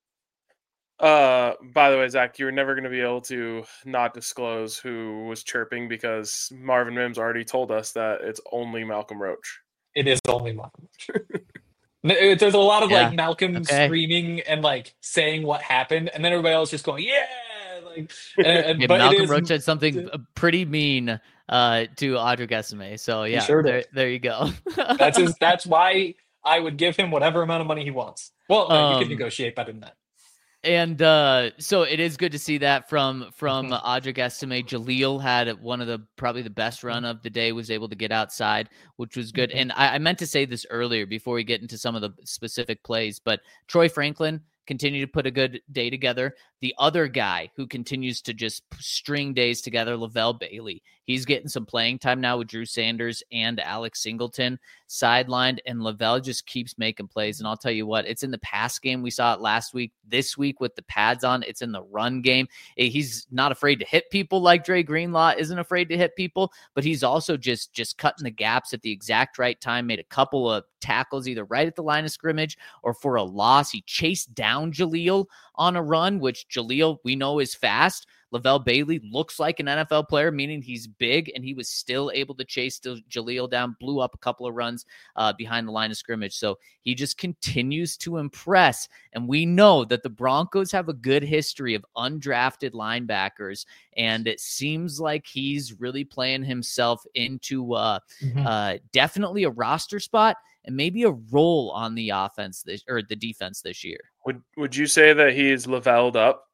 By the way, Zach, you're never going to be able to not disclose who was chirping because Marvin Mims already told us that it's only Malcolm Roach. It is only Malcolm Roach. There's a lot of like Malcolm screaming and like saying what happened, and then everybody else just going, "Yeah!" Like, but Malcolm Roach said something pretty mean to Audric Estime. So yeah, sure there you go. That's why I would give him whatever amount of money he wants. Well, you can negotiate better than that. And so it is good to see that from Audric Estime. Jaleel had one of probably the best run of the day, was able to get outside, which was good. And I meant to say this earlier before we get into some of the specific plays, but Troy Franklin continued to put a good day together. The other guy who continues to just string days together, Lavelle Bailey. He's getting some playing time now with Drew Sanders and Alex Singleton sidelined, and Lavelle just keeps making plays. And I'll tell you what, it's in the pass game. We saw it last week. This week with the pads on, it's in the run game. He's not afraid to hit people like Dre Greenlaw isn't afraid to hit people, but he's also just cutting the gaps at the exact right time, made a couple of tackles either right at the line of scrimmage or for a loss. He chased down Jaleel on a run, which Jaleel we know is fast. Lavelle Bailey looks like an NFL player, meaning he's big, and he was still able to chase Jaleel down, blew up a couple of runs behind the line of scrimmage. So he just continues to impress. And we know that the Broncos have a good history of undrafted linebackers, and it seems like he's really playing himself into definitely a roster spot and maybe a role on the offense or the defense this year. Would you say that he's Lavelled up?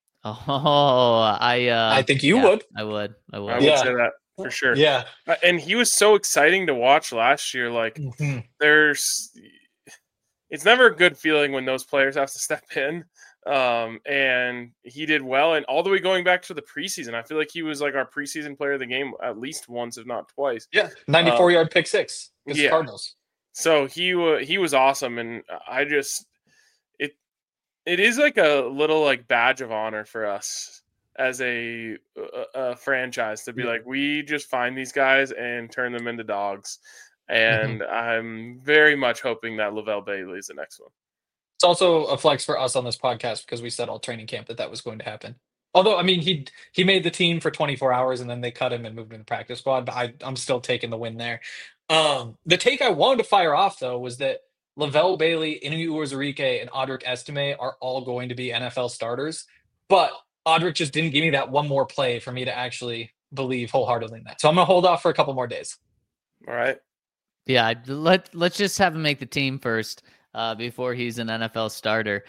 Oh, I think you would. I would say that for sure. Yeah. And he was so exciting to watch last year. Like it's never a good feeling when those players have to step in. And he did well. And all the way going back to the preseason, I feel like he was like our preseason player of the game at least once, if not twice. Yeah. 94-yard pick six against the Cardinals. So he was awesome. And I just, it is like a little like badge of honor for us as a franchise to be like, we just find these guys and turn them into dogs. And I'm very much hoping that Lavelle Bailey is the next one. It's also a flex for us on this podcast because we said all training camp that was going to happen. Although, I mean, he made the team for 24 hours and then they cut him and moved him to the practice squad. But I'm still taking the win there. The take I wanted to fire off though was that Lavelle Bailey, Inu Uwazurike, and Audric Estime are all going to be NFL starters. But Audric just didn't give me that one more play for me to actually believe wholeheartedly in that. So I'm gonna hold off for a couple more days. All right. Yeah, let's just have him make the team first before he's an NFL starter.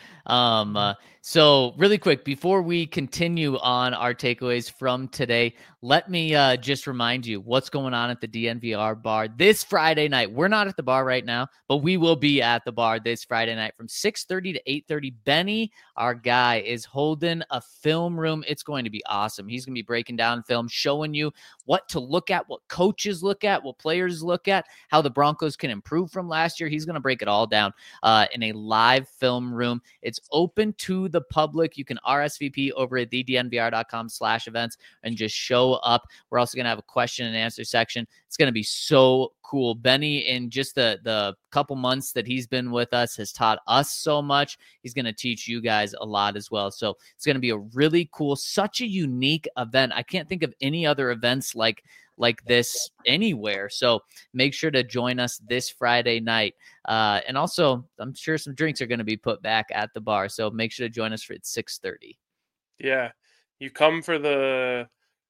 So really quick, before we continue on our takeaways from today, let me just remind you what's going on at the DNVR bar this Friday night. We're not at the bar right now, but we will be at the bar this Friday night from 6:30 to 8:30. Benny, our guy, is holding a film room. It's going to be awesome. He's going to be breaking down film, showing you what to look at, what coaches look at, what players look at, how the Broncos can improve from last year. He's going to break it all down in a live film room. It's open to the public. You can RSVP over at thednvr.com/events and just show up. We're also going to have a question and answer section. It's going to be so cool. Benny, in just the couple months that he's been with us, has taught us so much. He's going to teach you guys a lot as well. So it's going to be a really cool, such a unique event. I can't think of any other events like this anywhere. So make sure to join us this Friday night. And also, I'm sure some drinks are going to be put back at the bar. So make sure to join us for 6:30. Yeah. You come for the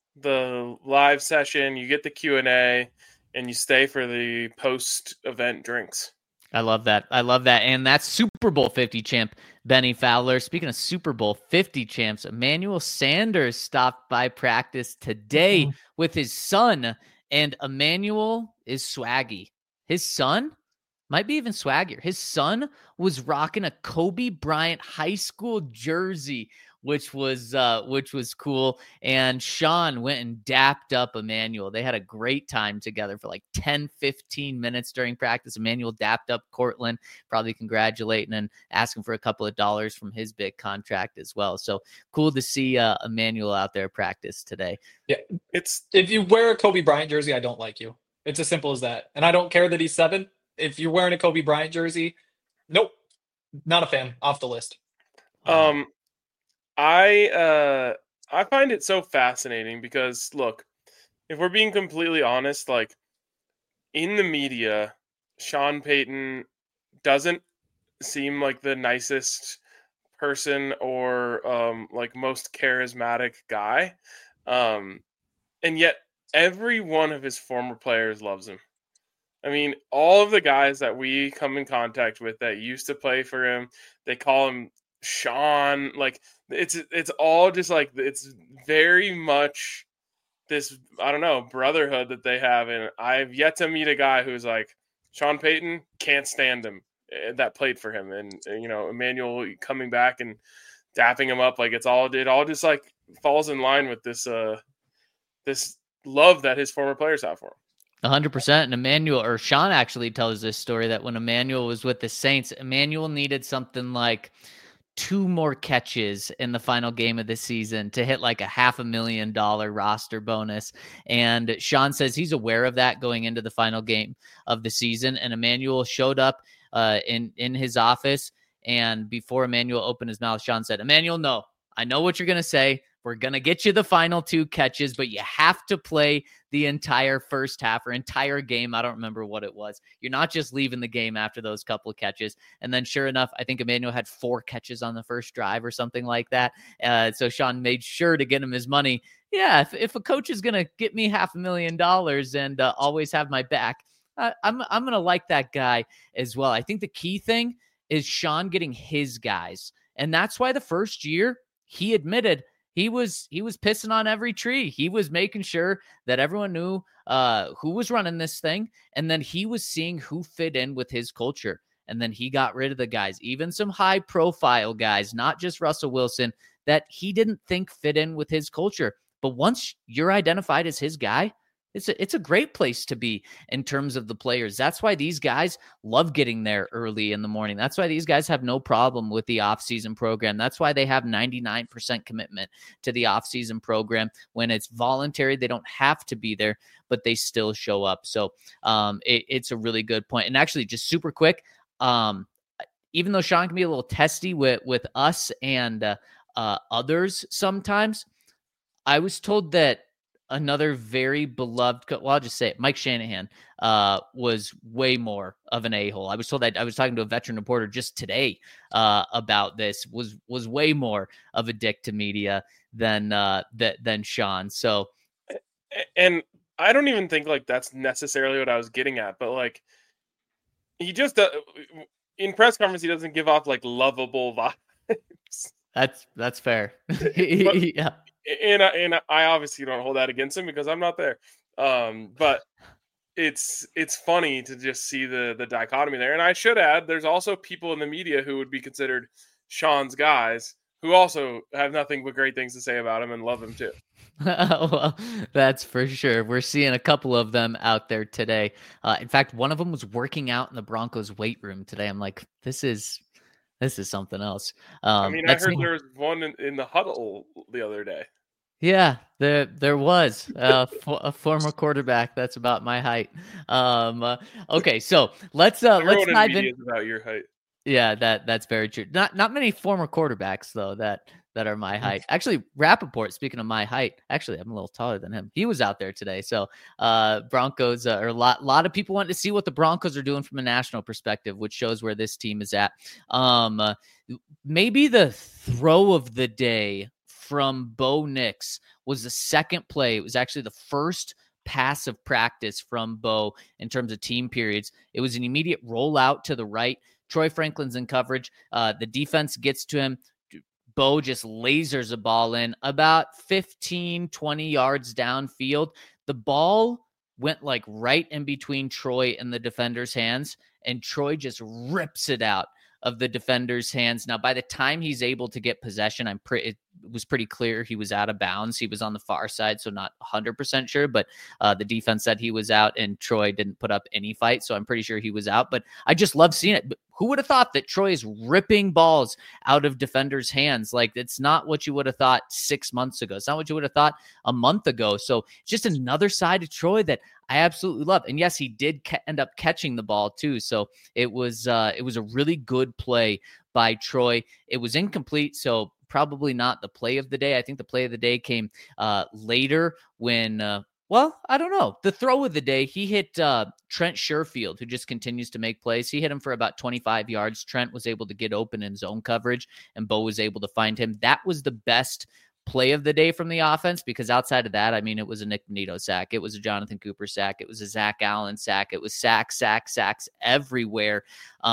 live session, you get the Q&A, and you stay for the post-event drinks. I love that. And that's Super Bowl 50 champ Benny Fowler. Speaking of Super Bowl 50 champs, Emmanuel Sanders stopped by practice today with his son, and Emmanuel is swaggy. His son might be even swaggier. His son was rocking a Kobe Bryant high school jersey, which was cool. And Sean went and dapped up Emmanuel. They had a great time together for like 10, 15 minutes during practice. Emmanuel dapped up Cortland, probably congratulating and asking for a couple of dollars from his big contract as well. So cool to see Emmanuel out there practice today. Yeah, if you wear a Kobe Bryant jersey, I don't like you. It's as simple as that. And I don't care that he's 7. If you're wearing a Kobe Bryant jersey, nope, not a fan. Off the list. I find it so fascinating because, look, if we're being completely honest, like, in the media, Sean Payton doesn't seem like the nicest person or like most charismatic guy. And yet every one of his former players loves him. I mean, all of the guys that we come in contact with that used to play for him, they call him Sean. Like, it's all just like, it's very much this, I don't know, brotherhood that they have. And I've yet to meet a guy who's like, Sean Payton can't stand him, that played for him. And, you know, Emmanuel coming back and dapping him up, like, it all just like falls in line with this this love that his former players have for him. 100%. And Sean actually tells this story that when Emmanuel was with the Saints, Emmanuel needed something like 2 more catches in the final game of the season to hit like a $500,000 roster bonus. And Sean says he's aware of that going into the final game of the season. And Emmanuel showed up in his office. And before Emmanuel opened his mouth, Sean said, "Emmanuel, no, I know what you're going to say. We're going to get you the final 2 catches, but you have to play the entire first half or entire game." I don't remember what it was. You're not just leaving the game after those couple of catches. And then sure enough, I think Emmanuel had 4 catches on the first drive or something like that. So Sean made sure to get him his money. Yeah, if a coach is going to get me $500,000 and always have my back, I'm going to like that guy as well. I think the key thing is Sean getting his guys. And that's why the first year he admitted he was pissing on every tree. He was making sure that everyone knew who was running this thing. And then he was seeing who fit in with his culture. And then he got rid of the guys, even some high profile guys, not just Russell Wilson, that he didn't think fit in with his culture. But once you're identified as his guy, it's a great place to be in terms of the players. That's why these guys love getting there early in the morning. That's why these guys have no problem with the offseason program. That's why they have 99% commitment to the offseason program. When it's voluntary, they don't have to be there, but they still show up. So it's a really good point. And actually, just super quick, even though Sean can be a little testy with us and others sometimes. I was told that another very beloved, well, I'll just say it, Mike Shanahan was way more of an a-hole. I was told that I was talking to a veteran reporter just today about this, was way more of a dick to media than Sean. So, and I don't even think like that's necessarily what I was getting at, but like he just in press conference he doesn't give off like lovable vibes. That's fair. Yeah. And I obviously don't hold that against him because I'm not there. But it's funny to just see the dichotomy there. And I should add, there's also people in the media who would be considered Sean's guys who also have nothing but great things to say about him and love him too. Well, that's for sure. We're seeing a couple of them out there today. In fact, one of them was working out in the Broncos weight room today. I'm like, this is something else. I mean, I heard there was one in the huddle the other day. Yeah, there was a former quarterback that's about my height. Okay, so let's dive in. About your height. Yeah, that's very true. Not many former quarterbacks though that are my height. Actually, Rappaport, speaking of my height, actually I'm a little taller than him. He was out there today. So Broncos or a lot of people want to see what the Broncos are doing from a national perspective, which shows where this team is at. Maybe the throw of the day from Bo Nix was the second play. It was actually the first pass of practice from Bo in terms of team periods. It was an immediate rollout to the right. Troy Franklin's in coverage. The defense gets to him. Bo just lasers a ball in about 15, 20 yards downfield. The ball went like right in between Troy and the defender's hands, and Troy just rips it out of the defender's hands. Now, by the time he's able to get possession, it was pretty clear he was out of bounds. He was on the far side, so not 100% sure, but the defense said he was out, and Troy didn't put up any fight, so I'm pretty sure he was out. But I just love seeing it. Who would have thought that Troy is ripping balls out of defenders' hands? Like, it's not what you would have thought 6 months ago. It's not what you would have thought a month ago. So just another side of Troy that I absolutely love. And yes, he did end up catching the ball too. So it was a really good play by Troy. It was incomplete, so probably not the play of the day. I think the play of the day came later when well, I don't know. The throw of the day, he hit Trent Sherfield, who just continues to make plays. He hit him for about 25 yards. Trent was able to get open in zone coverage, and Bo was able to find him. That was the best play of the day from the offense, because outside of that, I mean, it was a Nick Bonito sack. It was a Jonathan Cooper sack. It was a Zach Allen sack. It was sacks everywhere.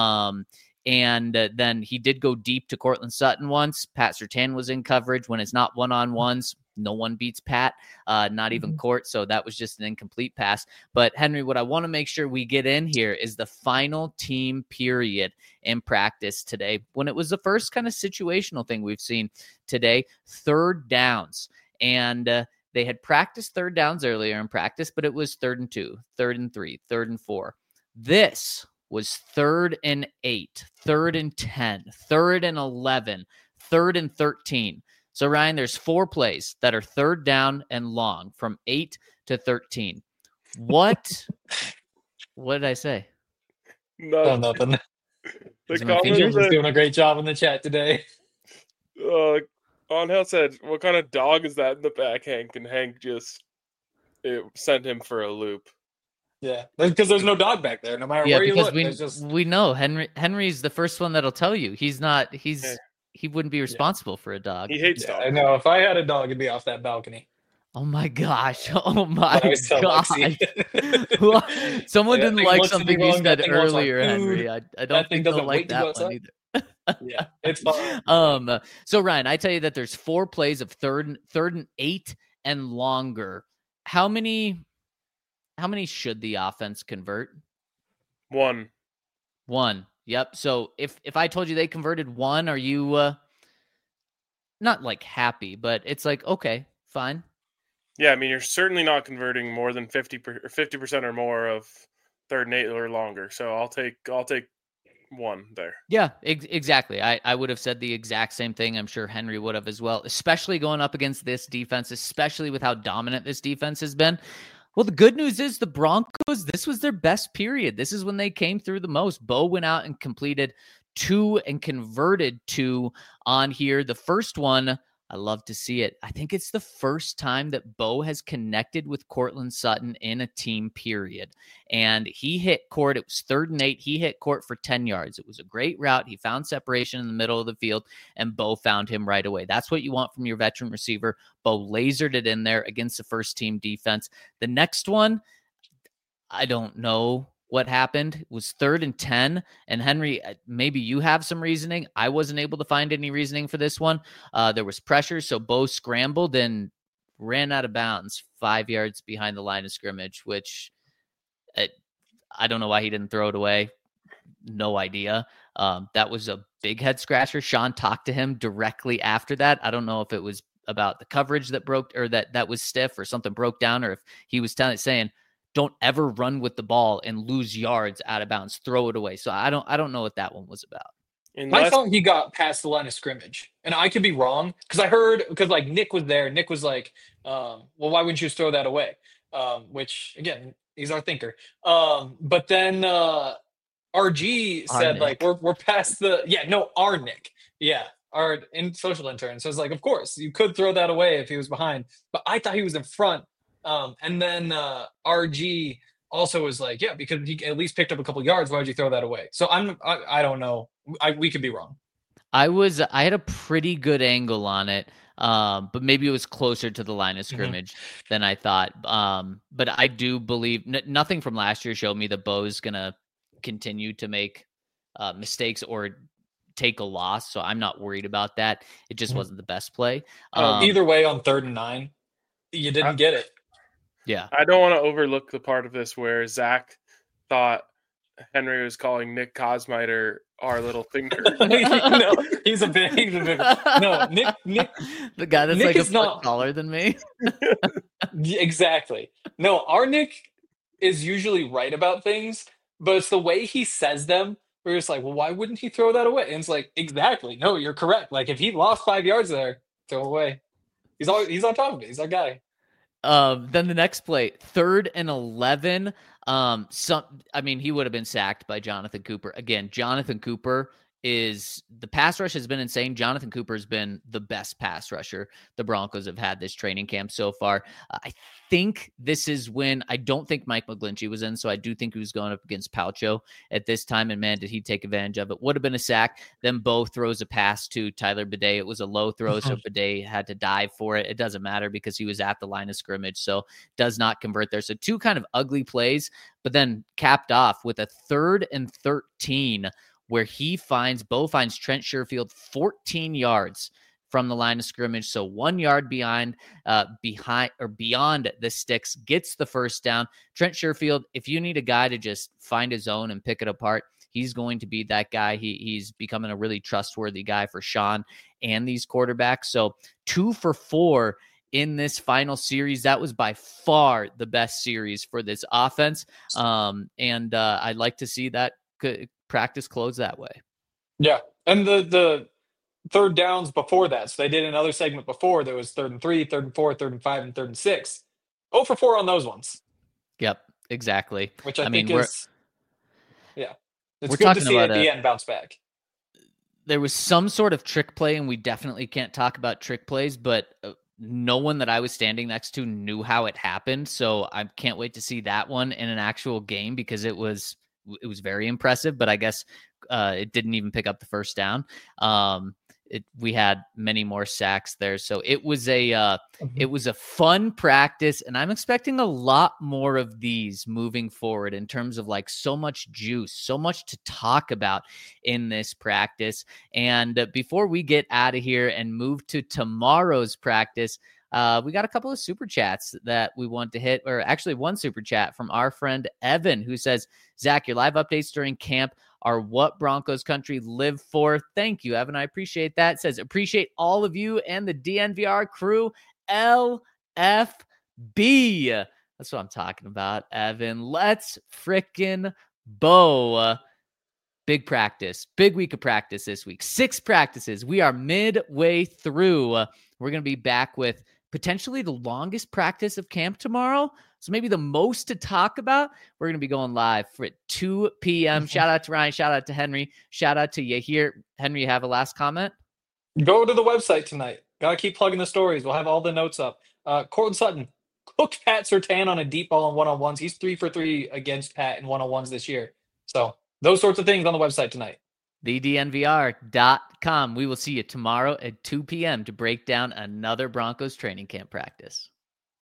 And then he did go deep to Cortland Sutton once. Pat Surtain was in coverage. When it's not one-on-ones, no one beats Pat, not even Court. So that was just an incomplete pass. But Henry, what I want to make sure we get in here is the final team period in practice today, when it was the first kind of situational thing we've seen today, third downs. And they had practiced third downs earlier in practice, but it was 3rd and 2, 3rd and 3, 3rd and 4. This was 3rd and 8, 3rd and 10, 3rd and 11, 3rd and 13. So, Ryan, there's 4 plays that are third down and long from 8 to 13. What did I say? Nothing. The Angels is doing a great job in the chat today. Angel said, "What kind of dog is that in the back, Hank?" And Hank just sent him for a loop. Yeah, because there's no dog back there. No matter where you look, we know Henry's the first one that'll tell you he wouldn't be responsible for a dog. He hates dogs. I know. If I had a dog, it'd be off that balcony. Oh my gosh! Oh my god! Someone didn't like something you said earlier, Henry. I don't think they'll like that one either. Yeah, it's fine. So Ryan, I tell you that there's 4 plays of third and 8 and longer. How many should the offense convert? 1. Yep. So if I told you they converted 1, are you not like happy, but it's like, okay, fine. Yeah, I mean, you're certainly not converting more than 50% or more of 3rd and 8 or longer. So I'll take 1 there. Yeah, exactly. I would have said the exact same thing. I'm sure Henry would have as well, especially going up against this defense, especially with how dominant this defense has been. Well, the good news is the Broncos, this was their best period. This is when they came through the most. Bo went out and completed 2 and converted 2 on here. The first one, I love to see it. I think it's the first time that Bo has connected with Courtland Sutton in a team period. And he hit Court. It was 3rd and 8. He hit Court for 10 yards. It was a great route. He found separation in the middle of the field, and Bo found him right away. That's what you want from your veteran receiver. Bo lasered it in there against the first team defense. The next one, I don't know what happened. It was 3rd and 10. And Henry, maybe you have some reasoning. I wasn't able to find any reasoning for this one. There was pressure, so Bo scrambled and ran out of bounds 5 yards behind the line of scrimmage, which I don't know why he didn't throw it away. No idea. That was a big head scratcher. Sean talked to him directly after that. I don't know if it was about the coverage that broke, or that was stiff, or something broke down, or if he was saying, don't ever run with the ball and lose yards out of bounds. Throw it away. So I don't know what that one was about. I thought he got past the line of scrimmage, and I could be wrong because like Nick was there. Nick was like, well, why wouldn't you just throw that away? Which again, he's our thinker. But then RG said like, we're past our Nick. Yeah. Our social intern. So it's like, of course you could throw that away if he was behind, but I thought he was in front. And then RG also was like, yeah, because he at least picked up a couple yards. Why would you throw that away? So I don't know. We could be wrong. I had a pretty good angle on it, but maybe it was closer to the line of scrimmage than I thought. But I do believe nothing from last year showed me that Bo's going to continue to make mistakes or take a loss. So I'm not worried about that. It just wasn't the best play. Either way, on 3rd and 9, you didn't get it. Yeah. I don't want to overlook the part of this where Zach thought Henry was calling Nick Kosmider our little thinker. No, he's a big. No, Nick. The guy that's Nick like a is not foot taller than me. Exactly. No, our Nick is usually right about things, but it's the way he says them. We're just like, well, why wouldn't he throw that away? And it's like, exactly. No, you're correct. Like if he lost 5 yards there, throw away. He's on top of it. He's our guy. Then the next play, 3rd and 11. He would have been sacked by Jonathan Cooper. Again, Jonathan Cooper the pass rush has been insane. Jonathan Cooper has been the best pass rusher the Broncos have had this training camp so far. I think this is when I don't think Mike McGlinchey was in, so I do think he was going up against Palcho at this time, and man, did he take advantage of it. Would have been a sack. Then Bo throws a pass to Tyler Bidet. It was a low throw, so Bidet had to dive for it. It doesn't matter because he was at the line of scrimmage, so does not convert there. So 2 kind of ugly plays, but then capped off with a 3rd and 13 where Bo finds Trent Sherfield 14 yards from the line of scrimmage. So 1 yard beyond the sticks, gets the first down. Trent Sherfield, if you need a guy to just find his own and pick it apart, he's going to be that guy. He's becoming a really trustworthy guy for Sean and these quarterbacks. So 2 for 4 in this final series. That was by far the best series for this offense. And I'd like to see that practice close that way. Yeah. And the 3rd downs before that. So they did another segment before. There was 3rd and 3, 3rd and 4, 3rd and 5, and 3rd and 6. 0 for 4 on those ones. Yep, exactly. Which I think is, it's good to see at the end bounce back. There was some sort of trick play, and we definitely can't talk about trick plays, but no one that I was standing next to knew how it happened. So I can't wait to see that one in an actual game because it was very impressive, but I guess it didn't even pick up the first down. We had many more sacks there. So it was a fun practice, and I'm expecting a lot more of these moving forward in terms of like so much juice, so much to talk about in this practice. And before we get out of here and move to tomorrow's practice, we got a couple of super chats that we want to hit, or actually one super chat from our friend Evan, who says, Zach, your live updates during camp are what Broncos country live for. Thank you, Evan. I appreciate that. It says, appreciate all of you and the DNVR crew. LFB. That's what I'm talking about, Evan. Let's frickin' Bo. Big practice, big week of practice this week. 6 practices. We are midway through. We're going to be back with potentially the longest practice of camp tomorrow. So maybe the most to talk about, we're going to be going live at 2 p.m. Shout out to Ryan. Shout out to Henry. Shout out to Yahir. Henry, you have a last comment? Go to the website tonight. Gotta keep plugging the stories. We'll have all the notes up. Cortland Sutton cooked Pat Surtain on a deep ball in one-on-ones. He's 3 for 3 against Pat in one-on-ones this year. So those sorts of things on the website tonight. TheDNVR.com. We will see you tomorrow at 2 p.m. to break down another Broncos training camp practice.